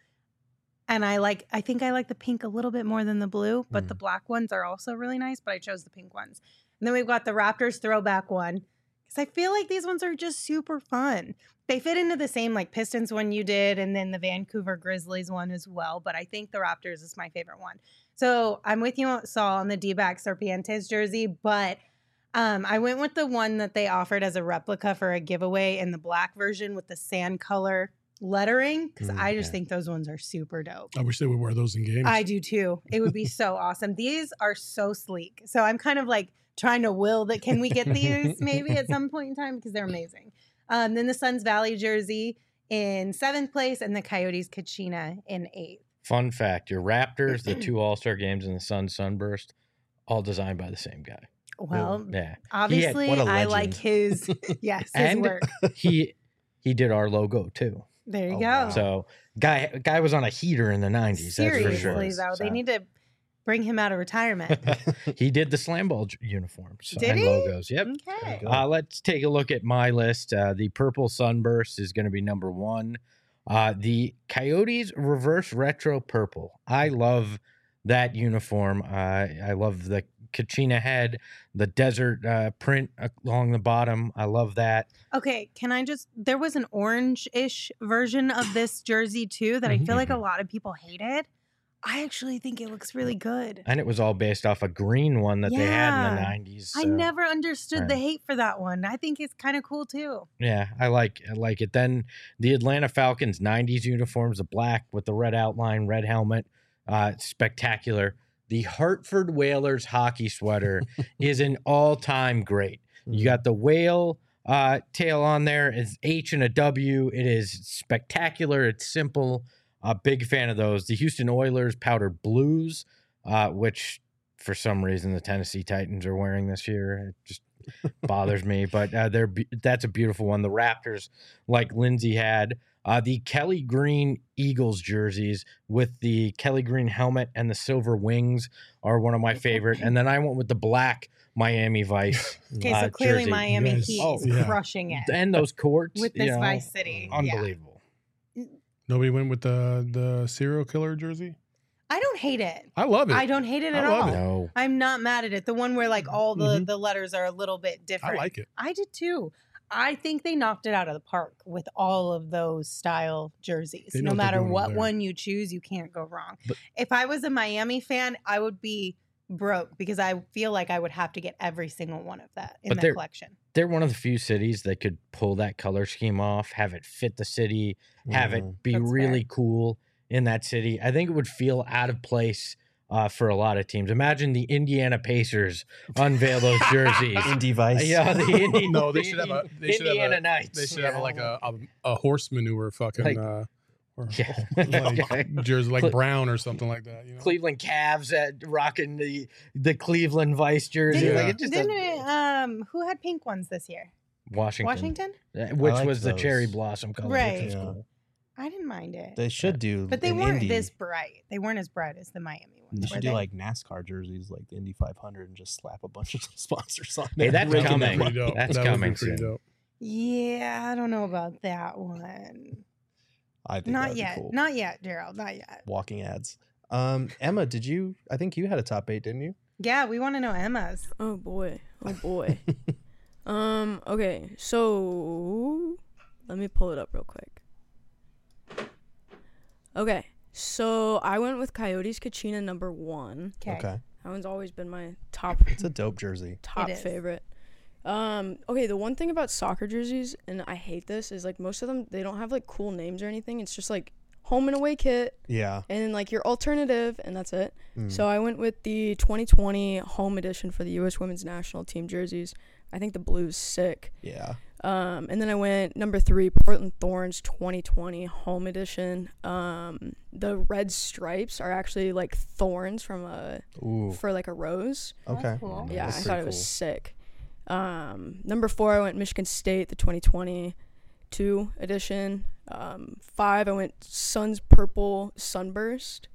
And I like, I think I like the pink a little bit more than the blue, but the black ones are also really nice, but I chose the pink ones. And then we've got the Raptors throwback one because I feel like these ones are just super fun. They fit into the same like Pistons one you did and then the Vancouver Grizzlies one as well, but I think the Raptors is my favorite one. So I'm with you, Saul, on the D-back Serpientes jersey, but um, I went with the one that they offered as a replica for a giveaway in the black version with the sand color lettering because Mm, I just yeah. think those ones are super dope. I wish they would wear those in games. I do too. It would be so awesome. These are so sleek. So I'm kind of like trying to will that can we get these maybe at some point in time because they're amazing. Um, then the Suns Valley jersey in seventh place and the Coyotes Kachina in eighth. Fun fact: your Raptors, the two All-Star games, and the Sun Sunburst, all designed by the same guy. Well, Yeah, obviously what a I legend. like his yes, his And- work. he he did our logo too. There you Oh, go. wow. So guy guy was on a heater in the nineties. Seriously, that's for sure. though, they So, need to bring him out of retirement. he did the slam ball j- uniforms Did and he? logos. Yep. Okay. Uh, let's take a look at my list. Uh, the purple sunburst is going to be number one. Uh, the Coyotes reverse retro purple. I love that uniform. Uh, I love the Kachina head, the desert uh, print along the bottom. I love that. Okay, can I just? There was an orange-ish version of this jersey too that I feel like a lot of people hated. I actually think it looks really good. And it was all based off a green one that they had in the Yeah. nineties. I so, never understood the Right. hate for that one. I think it's kind of cool too. Yeah, I like I like it. Then the Atlanta Falcons nineties uniforms, the black with the red outline, red helmet, uh, spectacular. The Hartford Whalers hockey sweater is an all-time great. You got the whale uh, tail on there. It's H and a W. It is spectacular. It's simple. A big fan of those. The Houston Oilers powder blues, uh, which for some reason the Tennessee Titans are wearing this year. It just bothers me, but uh, they're be- that's a beautiful one. The Raptors, like Lindsay had, uh, the Kelly Green Eagles jerseys with the Kelly Green helmet and the silver wings are one of my favorite. And then I went with the black Miami Vice. Okay, uh, so clearly jersey. Miami Yes. Heat Oh, is yeah. crushing it And those courts with you this know, Vice City. Yeah. unbelievable. Nobody went with the the serial killer jersey. I don't hate it. I love it. I don't hate it I at love all. it. No. I'm not mad at it. The one where like all the Mhm. the letters are a little bit I different. like it. I did too. I think they knocked it out of the park with all of those style jerseys. They know No what they're matter doing over what there. one you choose, you can't go wrong. But- if I was a Miami fan, I would be broke because I feel like I would have to get every single one of that in But the they're- collection. They're one of the few cities that could pull that color scheme off, have it fit the city, have Mhm. it be That's really fair. cool in that city. I think it would feel out of place uh, for a lot of teams. Imagine the Indiana Pacers unveil those jerseys. Indy Vice. Yeah, the Indi- No, they the should have a- Indi- they should have a- Indiana Knights. They should have like a, a a horse manure fucking Like- uh, or, Yeah. like jersey like Cle- brown or something like that. You know? Cleveland Cavs at rocking the the Cleveland Vice jersey. Didn't, Like Yeah. it just didn't it, um, who had pink ones this year? Washington, Washington? uh, which liked was the cherry those. blossom color. Right. Which was Yeah. cool. I didn't mind it. They should do. but they in weren't Indy, this bright. They weren't as bright as the Miami ones. They were should do they? like NASCAR jerseys, like the Indy five hundred, and just slap a bunch of sponsors on Hey, there. that's Raking coming. them up. Pretty dope. That's that would coming be pretty soon. dope. Yeah, I don't know about that one. I think Not that'd be yet. cool. Not yet, Gerald. Not yet. Walking ads. Um, Emma, did you? I think you had a top eight, didn't you? Yeah, we want to know Emma's. Oh boy. Oh boy. um, okay, so let me pull it up real quick. Okay. So I went with Coyotes Kachina number one. Okay. Okay, That one's always been my top it's a dope jersey. top It is. favorite. Um, okay, the one thing about soccer jerseys, and I hate this, is like most of them they don't have like cool names or anything. It's just like home and away kit Yeah. and then like your alternative, and that's it. Mm. So I went with the twenty twenty home edition for the U S women's national team jerseys. I think the blue's sick. Yeah. Um, and then I went number three, Portland Thorns twenty twenty home edition. Um, the red stripes are actually like thorns from a Ooh. for like a rose. Okay. cool. Yeah, That's I pretty thought it was cool. sick. Um, number four, I went Michigan State, the twenty twenty-two edition. Um, five, I went Suns Purple Sunburst.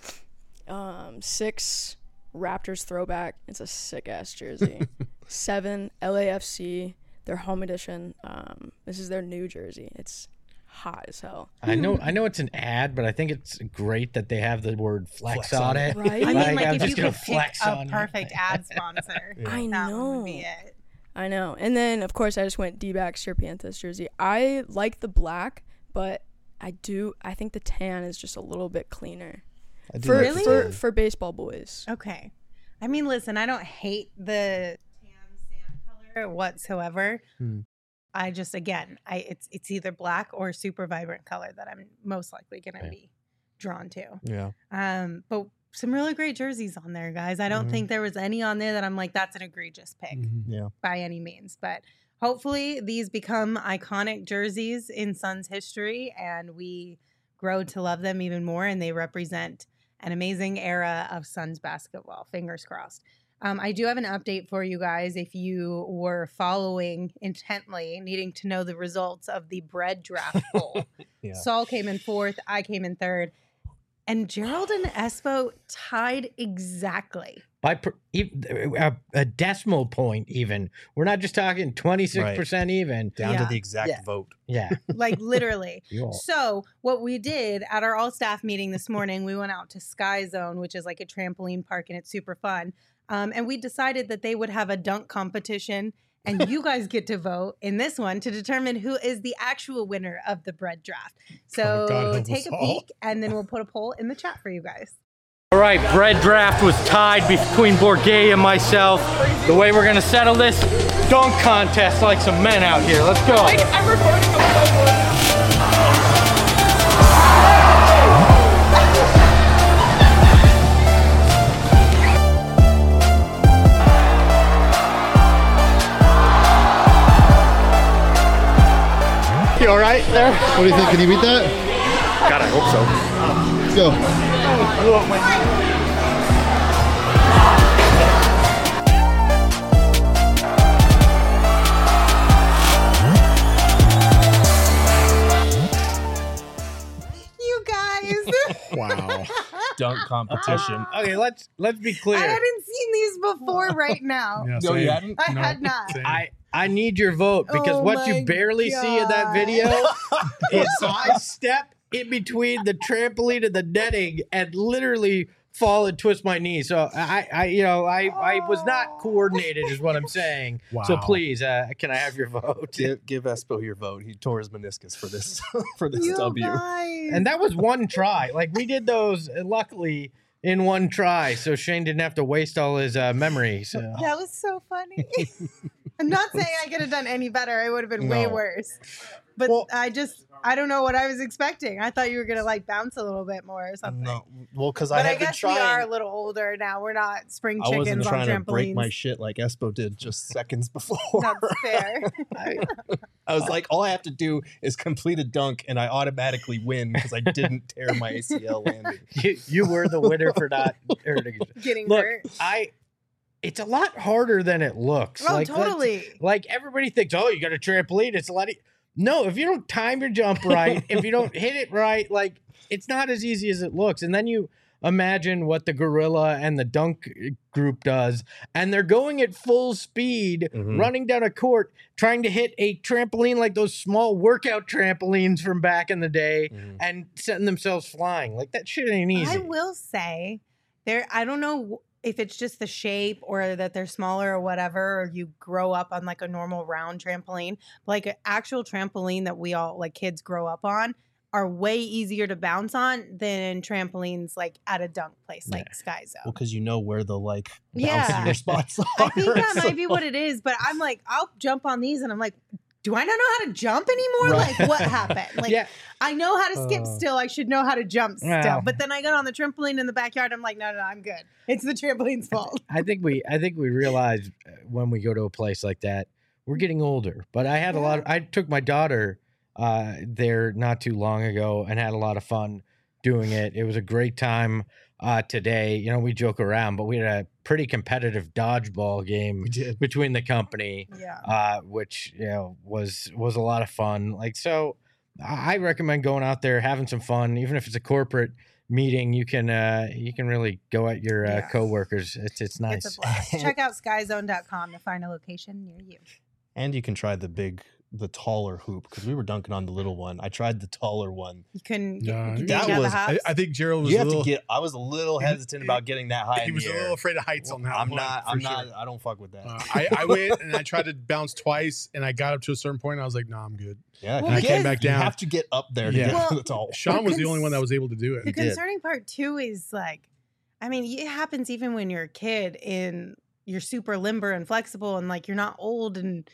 Um, six, Raptors Throwback. It's a sick ass jersey. Seven, L A F C, their home edition. Um, this is their new jersey. It's hot as hell. I know, I know it's an ad, but I think it's great that they have the word flex, Flex on on it. it. Right? I mean, Like, like, I'm if just you gonna could pick flex a on you. perfect ad sponsor, Yeah. I that know. one would be it. I know. And then, of course, I just went D-backs Serpientes jersey. I like the black, but I do. I think the tan is just a little bit cleaner I do for like Really? for the- for baseball boys. Okay. I mean, listen, I don't hate the tan sand color whatsoever. Hmm. I just, again, I it's it's either black or super vibrant color that I'm most likely going to Yeah. be drawn to. Yeah. Um, but some really great jerseys on there, guys. I don't Mhm. think there was any on there that I'm like, that's an egregious pick Mhm. Yeah. by any means. But hopefully these become iconic jerseys in Suns history and we grow to love them even more and they represent an amazing era of Suns basketball. Fingers crossed. Um, I do have an update for you guys if you were following intently, needing to know the results of the bread draft poll. Yeah. Saul came in fourth, I came in third, and Gerald and Espo tied exactly. By per, e- a, a decimal point, even. We're not just talking twenty-six percent even. Down Yeah. to the exact Yeah. vote. Yeah. Like literally. You all- So what we did at our all staff meeting this morning, we went out to Sky Zone, which is like a trampoline park and it's super fun. Um, and we decided that they would have a dunk competition and you guys get to vote in this one to determine who is the actual winner of the bread draft. So Oh, God help take us a all. peek and then we'll put a poll in the chat for you guys. All right, bread draft was tied between Bourget and myself. The way we're gonna settle this, dunk contest like some men out here. Let's go. I'm recording. You all right there? What do you think? Can you beat that? God, I hope so. Let's go. You guys. Wow. Dunk competition. Okay, let's let's be clear. I hadn't seen these before right now. Yeah, No, you same. hadn't? I No, had not. same. I I need your vote because Oh what my you barely see in that God. video is I step in between the trampoline and the netting and literally fall and twist my knee. So I, I you know, I, I was not coordinated, is what I'm saying. So Wow. please, uh, can I have your vote? Give, give Espo your vote. He tore his meniscus for this for this You W. guys. And that was one try. Like we did those, uh, luckily, in one try, so Shane didn't have to waste all his uh, memory. So That was so funny. I'm not saying I could have done any better. It would have been way No. worse. But Well- I just, I don't know what I was expecting. I thought you were going to like bounce a little bit more or something. No, well, because I But I, have been guess we are trying. a little older now. We're not spring I wasn't chickens on trying to trampolines. break my shit like Espo did just seconds before. That's fair. I, I was like, all I have to do is complete a dunk, and I automatically win because I didn't tear my A C L landing. you, you were the winner for not hurting. Getting Look, hurt. I. It's a lot harder than it looks. Oh, like, that's- totally. Like everybody thinks, oh, you got a trampoline. It's a lot. E-. No, if you don't time your jump right, if you don't hit it right, like it's not as easy as it looks. And then you imagine what the gorilla and the dunk group does, and they're going at full speed, Mhm. running down a court, trying to hit a trampoline like those small workout trampolines from back in the day, Mhm. and setting themselves flying. Like that shit ain't easy. I will say, there. I don't know if it's just the shape or that they're smaller or whatever, or you grow up on like a normal round trampoline. But like an actual trampoline that we all like kids grow up on are way easier to bounce on than trampolines like at a dunk place like Sky Zone. Well, because you know where the like Yeah. bouncier spots are. I think that so- might be what it is, but I'm like, I'll jump on these and I'm like, do I not know how to jump anymore? Right. Like, what happened? Like, yeah, I know how to skip Uh, still. I should know how to jump still. Wow. But then I got on the trampoline in the backyard. I'm like, no, no, no, I'm good. It's the trampoline's fault. I think we I think we realize uh, when we go to a place like that, we're getting older. But I had a lot of, I took my daughter uh there not too long ago and had a lot of fun doing it. It was a great time uh today. You know, we joke around, but we had a pretty competitive dodgeball game We did. between the company, Yeah. uh, which you know was was a lot of fun. Like so I I recommend going out there, having some fun, even if it's a corporate meeting. You can uh you can really go at your uh, Yeah. coworkers. It's it's nice. It's a blast. Check out sky zone dot com to find a location near you. And you can try the big, the taller hoop because we were dunking on the little one. I tried the taller one. You couldn't get, Nah, did that you have was- the I, hops? I think Gerald was You a have little. to get. I was a little he was- hesitant about getting that high. he in was the a air. little afraid of heights on that I'm one. not. for I'm sure. not. I don't fuck with that. Uh, I, I went and I tried to bounce twice, and I got up to a certain point, and I was like, "Nah, I'm good." yeah, Well, you I get- came back You down. have to get up there to Yeah. get Well, to the tall. Sean was the cons- only one that was able to do The it. did. concerning part too is like, I mean, it happens even when you're a kid and you're super limber and flexible and like you're not old and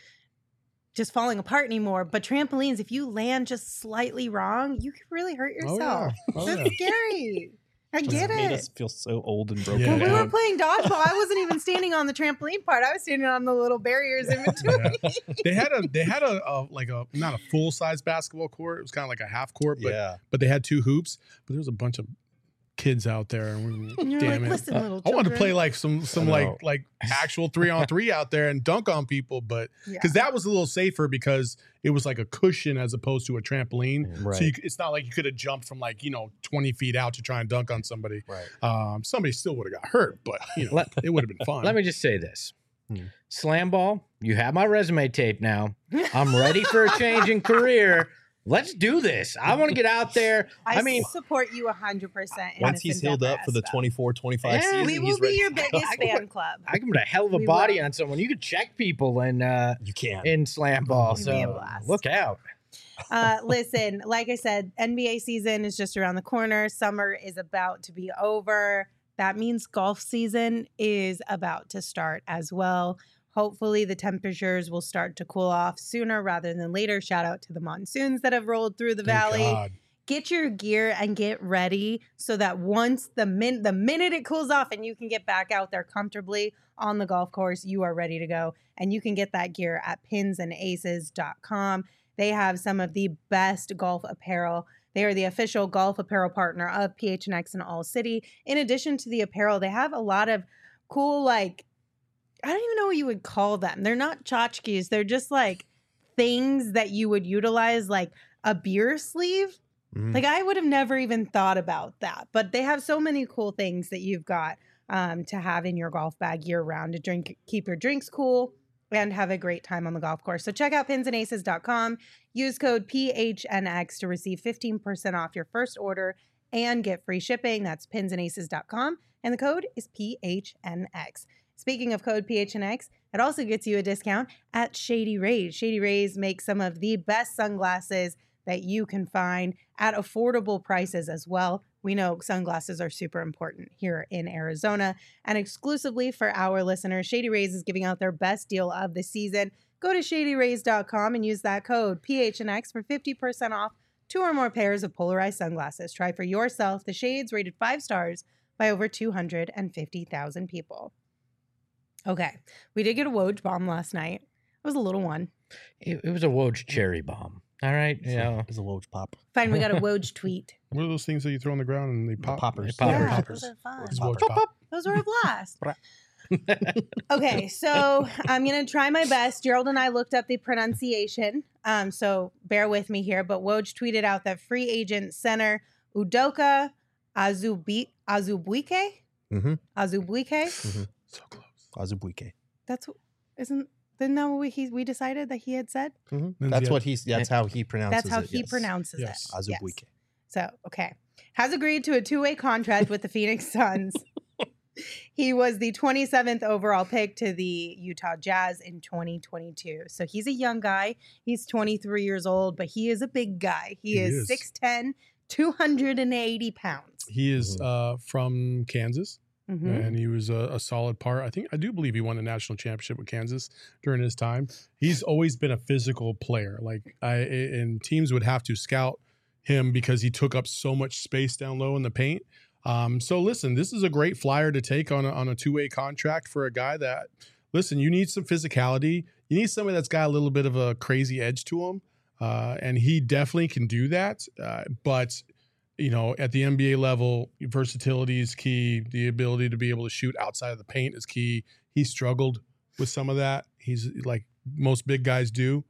just falling apart anymore. But trampolines, if you land just slightly wrong, you can really hurt Oh, yourself. yeah. Oh, That's scary. I Just get made it. us feel so old and broken Yeah. When we were down. playing dodgeball, I wasn't even standing on the trampoline part. I was standing on the little barriers in between. They had a they had a, a like a not a full size basketball court. It was kind of like a half court, but yeah. but they had two hoops. But there was a bunch of kids out there, and we, And you're damn like, it. listen, little I wanted to children." play like some some I know. like like actual three on three out there and dunk on people, but Yeah. because that was a little safer because it was like a cushion as opposed to a trampoline. Right. So you, c- it's not like you could have jumped from like you know twenty feet out to try and dunk on somebody. Right. Um, somebody still would have got hurt, but you know Let- it would have been fun. Let me just say this. Hmm. Slam ball, you have my resume tape now. I'm ready for a change in career. Let's do this. I want to get out there. I, I mean, support you one hundred percent. in Once this he's healed endeavor, up for the Espo. twenty-four twenty-five Yeah. season, We will he's be ready your to go. biggest I can fan put- club. I can put a hell of a We body will. on someone. You could check people in uh, You can. in slam ball. It'd be a So blast. look out. Uh, listen, like I said, N B A season is just around the corner. Summer is about to be over. That means golf season is about to start as well. Hopefully, the temperatures will start to cool off sooner rather than later. Shout out to the monsoons that have rolled through the Thank valley. God. Get your gear and get ready so that once the min the minute it cools off and you can get back out there comfortably on the golf course, you are ready to go. And you can get that gear at pins and aces dot com. They have some of the best golf apparel. They are the official golf apparel partner of P H N X in All City. In addition to the apparel, they have a lot of cool, like, I don't even know what you would call them. They're not tchotchkes. They're just like things that you would utilize, like a beer sleeve. Mhm. Like I would have never even thought about that. But they have so many cool things that you've got um, to have in your golf bag year round to drink, keep your drinks cool and have a great time on the golf course. So check out pins and aces dot com. Use code P H N X to receive fifteen percent off your first order and get free shipping. That's pins and aces dot com. And the code is P H N X. Speaking of code P H N X, it also gets you a discount at Shady Rays. Shady Rays makes some of the best sunglasses that you can find at affordable prices as well. We know sunglasses are super important here in Arizona. And exclusively for our listeners, Shady Rays is giving out their best deal of the season. Go to shady rays dot com and use that code P H N X for fifty percent off two or more pairs of polarized sunglasses. Try for yourself the shades rated five stars by over two hundred fifty thousand people. Okay, we did get a Woj bomb last night. It was a little one. It, it was a Woj cherry bomb. All right, you know. It's a Woj pop. Fine, we got a Woj tweet. What are those things that you throw on the ground and they The pop? poppers. Poppers. Yeah, Poppers. those are fun. It's Woj pop. Those were a blast. Okay, so I'm going to try my best. Gerald and I looked up the pronunciation, um, so bear with me here. But Woj tweeted out that free agent center Udoka Azubi- Azubuike? Mm-hmm. Azubuike? So close. Azubuike. That's, isn't, isn't that what we, he, we decided that he had said? Mm-hmm. That's yeah. what he's. That's how he pronounces That's how it. he yes. pronounces Yes. it. Azubuike. Yes. So, okay. Has agreed to a two-way contract with the Phoenix Suns. He was the twenty-seventh overall pick to the Utah Jazz in twenty twenty-two. So he's a young guy. He's twenty-three years old, but he is a big guy. He, He is is. six ten, two hundred eighty pounds. He is Mhm. uh, from Kansas, Mhm. and he was a, a solid part. I think I do believe he won the national championship with Kansas during his time. He's always been a physical player. Like I and teams would have to scout him because he took up so much space down low in the paint. Um, so listen, this is a great flyer to take on a, on a two-way contract for a guy that, listen, you need some physicality. You need somebody that's got a little bit of a crazy edge to him. Uh, and he definitely can do that. Uh, but, you know, at the N B A level, versatility is key. The ability to be able to shoot outside of the paint is key. He struggled with some of that. He's like most big guys do.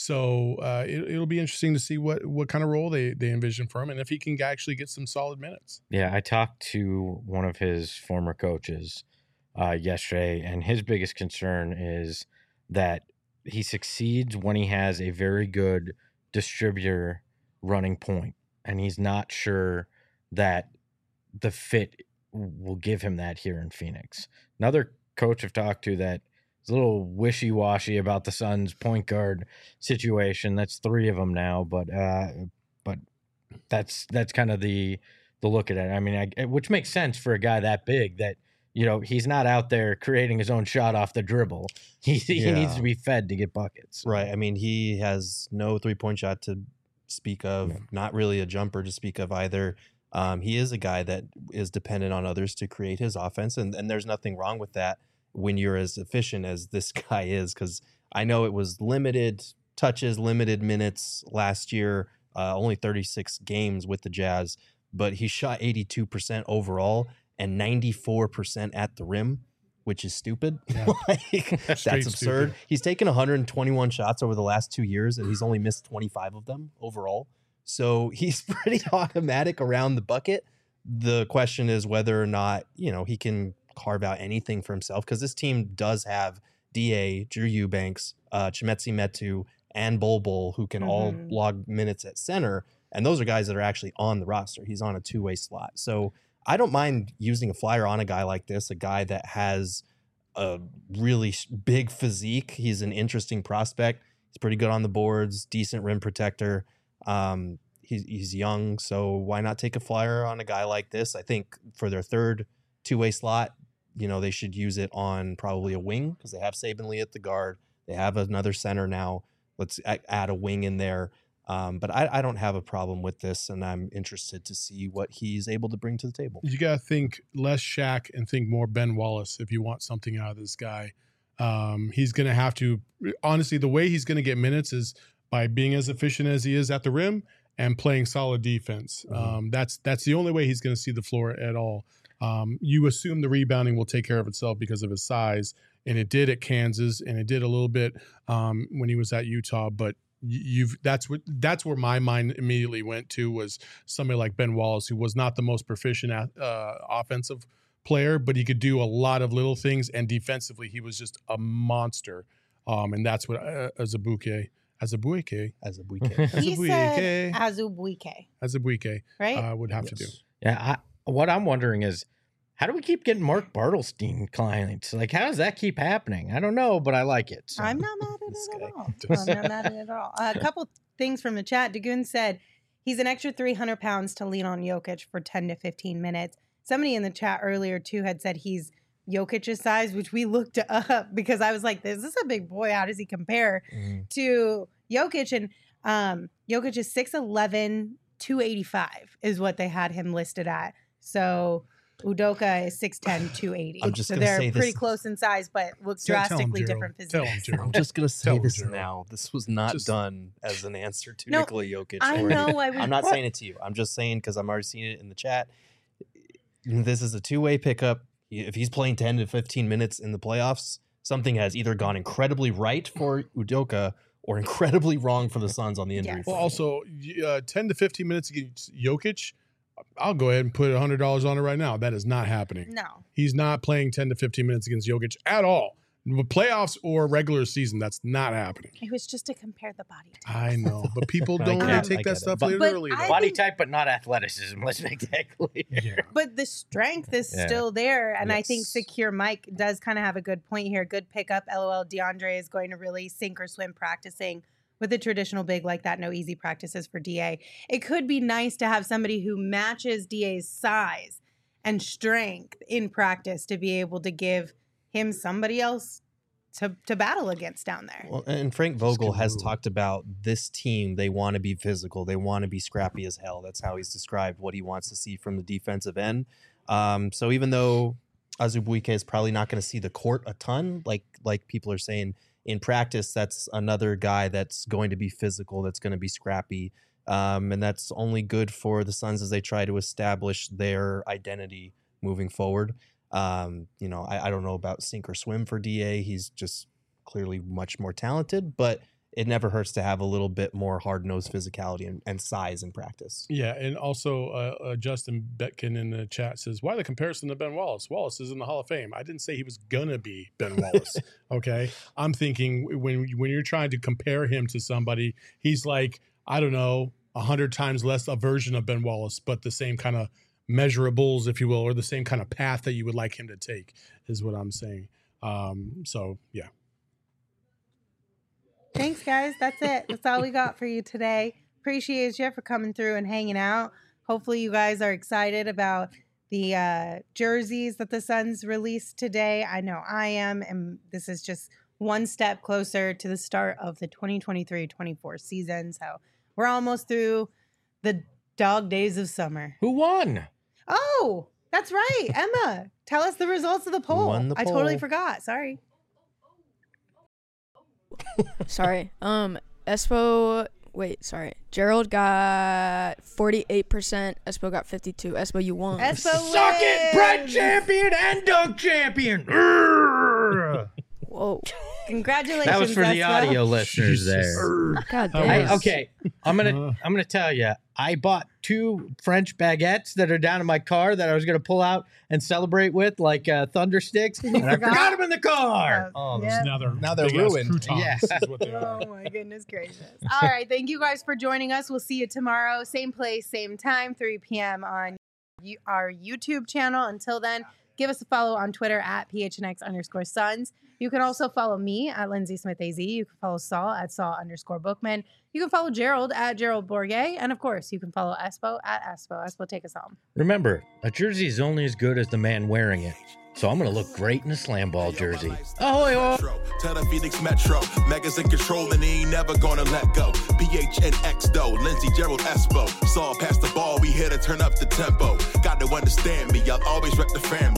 So uh, it, it'll be interesting to see what, what kind of role they, they envision for him and if he can actually get some solid minutes. Yeah, I talked to one of his former coaches uh, yesterday, and his biggest concern is that he succeeds when he has a very good distributor running point, and he's not sure that the fit will give him that here in Phoenix. Another coach I've talked to that is a little wishy-washy about the Suns' point guard situation. That's three of them now, but uh, but that's that's kind of the the look at it. I mean, I, which makes sense for a guy that big that, you know, he's not out there creating his own shot off the dribble. He he Yeah. needs to be fed to get buckets. Right. I mean, he has no three point shot to speak of, No. not really a jumper to speak of either. Um, he is a guy that is dependent on others to create his offense, and, and there's nothing wrong with that when you're as efficient as this guy is, because I know it was limited touches, limited minutes last year, uh, only thirty-six games with the Jazz, but he shot eighty-two percent overall and ninety-four percent at the rim, which is stupid. Yeah. Like, that's Straight absurd. stupid. He's taken one hundred twenty-one shots over the last two years, and he's only missed twenty-five of them overall. So he's pretty automatic around the bucket. The question is whether or not, you know, he can carve out anything for himself, because this team does have D A, Drew Eubanks, uh, Chimezie Metu, and Bol Bol, who can all Mhm. log minutes at center. And those are guys that are actually on the roster. He's on a two-way slot. So I don't mind using a flyer on a guy like this, a guy that has a really sh- big physique. He's an interesting prospect. He's pretty good on the boards, decent rim protector. Um, he's, he's young, so why not take a flyer on a guy like this? I think for their third two-way slot, you know, they should use it on probably a wing, because they have Saban Lee at the guard. They have another center now. Let's a- add a wing in there. Um, but I, I don't have a problem with this, and I'm interested to see what he's able to bring to the table. You got to think less Shaq and think more Ben Wallace if you want something out of this guy. Um, he's going to have to, honestly, the way he's going to get minutes is by being as efficient as he is at the rim and playing solid defense. Mhm. Um, that's that's the only way he's going to see the floor at all. Um, you assume the rebounding will take care of itself because of his size, and it did at Kansas, and it did a little bit um, when he was at Utah. But y- you've that's what that's where my mind immediately went to, was somebody like Ben Wallace, who was not the most proficient at, uh, offensive player, but he could do a lot of little things, and defensively he was just a monster. Um, and that's what uh, Azubuike, Azubuike, As a weekend. He Azubuike, said Azubuike, Azubuike right? uh, would have to do. Yes. Yeah, I, what I'm wondering is, how do we keep getting Mark Bartelstein clients? Like, how does that keep happening? I don't know, but I like it. So. I'm not mad at it at all. I'm not mad at it at all. Uh, a couple things from the chat. Dagoon said he's an extra three hundred pounds to lean on Jokic for ten to fifteen minutes. Somebody in the chat earlier, too, had said he's Jokic's size, which we looked up because I was like, this is a big boy. How does he compare mm. to Jokic? And um, Jokic is six eleven, two eighty-five is what they had him listed at. So Udoka is six ten, two eighty. I'm just so gonna they're say pretty this. close in size, but look Tell- tell him, drastically Gerald. different Tell him, physiques. Gerald. I'm just gonna say Tell him, this Gerald. now. This was not Just- done as an answer to No, Nikola Jokic. I or know. anything. I would, I'm not saying it to you. I'm just saying because I'm already seeing it in the chat. This is a two-way pickup. If he's playing ten to fifteen minutes in the playoffs, something has either gone incredibly right for Udoka or incredibly wrong for the Suns on the injury Yes. Well, front. also, uh, ten to fifteen minutes against Jokic, I'll go ahead and put one hundred dollars on it right now. That is not happening. No. He's not playing ten to fifteen minutes against Jokic at all. Playoffs or regular season, that's not happening. It was just to compare the body types. I know, but people I don't get want it, to I take get that it. stuff But- literally. But I though. Body think- type, but not athleticism. Let's make that clear. Yeah. But the strength is Yeah. still there. And I think Yes. Secure Mike does kind of have a good point here. Good pickup. LOL. DeAndre is going to really sink or swim practicing with a traditional big like that. No easy practices for D A. It could be nice to have somebody who matches D A's size and strength in practice to be able to give him somebody else to, to battle against down there. Well, and Frank Vogel good has move. talked about this team. They want to be physical. They want to be scrappy as hell. That's how he's described what he wants to see from the defensive end. Um, so even though Azubuike is probably not going to see the court a ton, like like people are saying in practice, that's another guy that's going to be physical. That's going to be scrappy, um, and that's only good for the Suns as they try to establish their identity moving forward. Um, you know, I, I don't know about sink or swim for D A. He's just clearly much more talented, but it never hurts to have a little bit more hard-nosed physicality and, and size in practice. Yeah, and also uh, uh, Justin Betkin in the chat says, why the comparison to Ben Wallace? Wallace is in the Hall of Fame. I didn't say he was going to be Ben Wallace, okay? I'm thinking when when you're trying to compare him to somebody, he's like, I don't know, a hundred times less a version of Ben Wallace, but the same kind of measurables, if you will, or the same kind of path that you would like him to take is what I'm saying. Um, so, yeah. Thanks, guys. That's it. That's all we got for you today. Appreciate you for coming through and hanging out. Hopefully, you guys are excited about the uh, jerseys that the Suns released today. I know I am, and this is just one step closer to the start of the twenty twenty-three twenty-four season. So we're almost through the dog days of summer. Who won? Oh, that's right. Emma, tell us the results of the poll. won the I totally poll? forgot. Sorry. Sorry. Um, Espo. Wait, sorry. Gerald got forty-eight percent. Espo got fifty-two. Espo, you won. Espo Suck it, bread wins. champion and dunk champion. Urgh. Whoa. Congratulations. That was for the Espo. audio listeners Jesus. there. God That damn. was- I, okay, I'm gonna Uh. I'm gonna tell you. I bought two French baguettes that are down in my car that I was gonna pull out and celebrate with, like uh, thunder sticks, and I forgot? forgot them in the car. Oh, Yeah. Now they're, Now they're big-ass ruined. croutons Yeah. is what they are. Oh my goodness gracious. All right. Thank you guys for joining us. We'll see you tomorrow. Same place, same time, three p.m. on you- our YouTube channel. Until then, give us a follow on Twitter at P H N X underscore Suns. You can also follow me at Lindsay Smith A Z. You can follow Saul at Saul underscore Bookman. You can follow Gerald at Gerald Bourget. And of course, you can follow Espo at Espo. Espo, take us home. Remember, a jersey is only as good as the man wearing it. So I'm gonna look great in a slam ball jersey. Ahoy, ho! Tell the Phoenix Metro, Megas in control and he ain't never gonna let go. P H N X though, Lindsey, Gerald, Espo. Saw past the ball, we here to turn up the tempo. Got to understand me, I'll always rep the fam.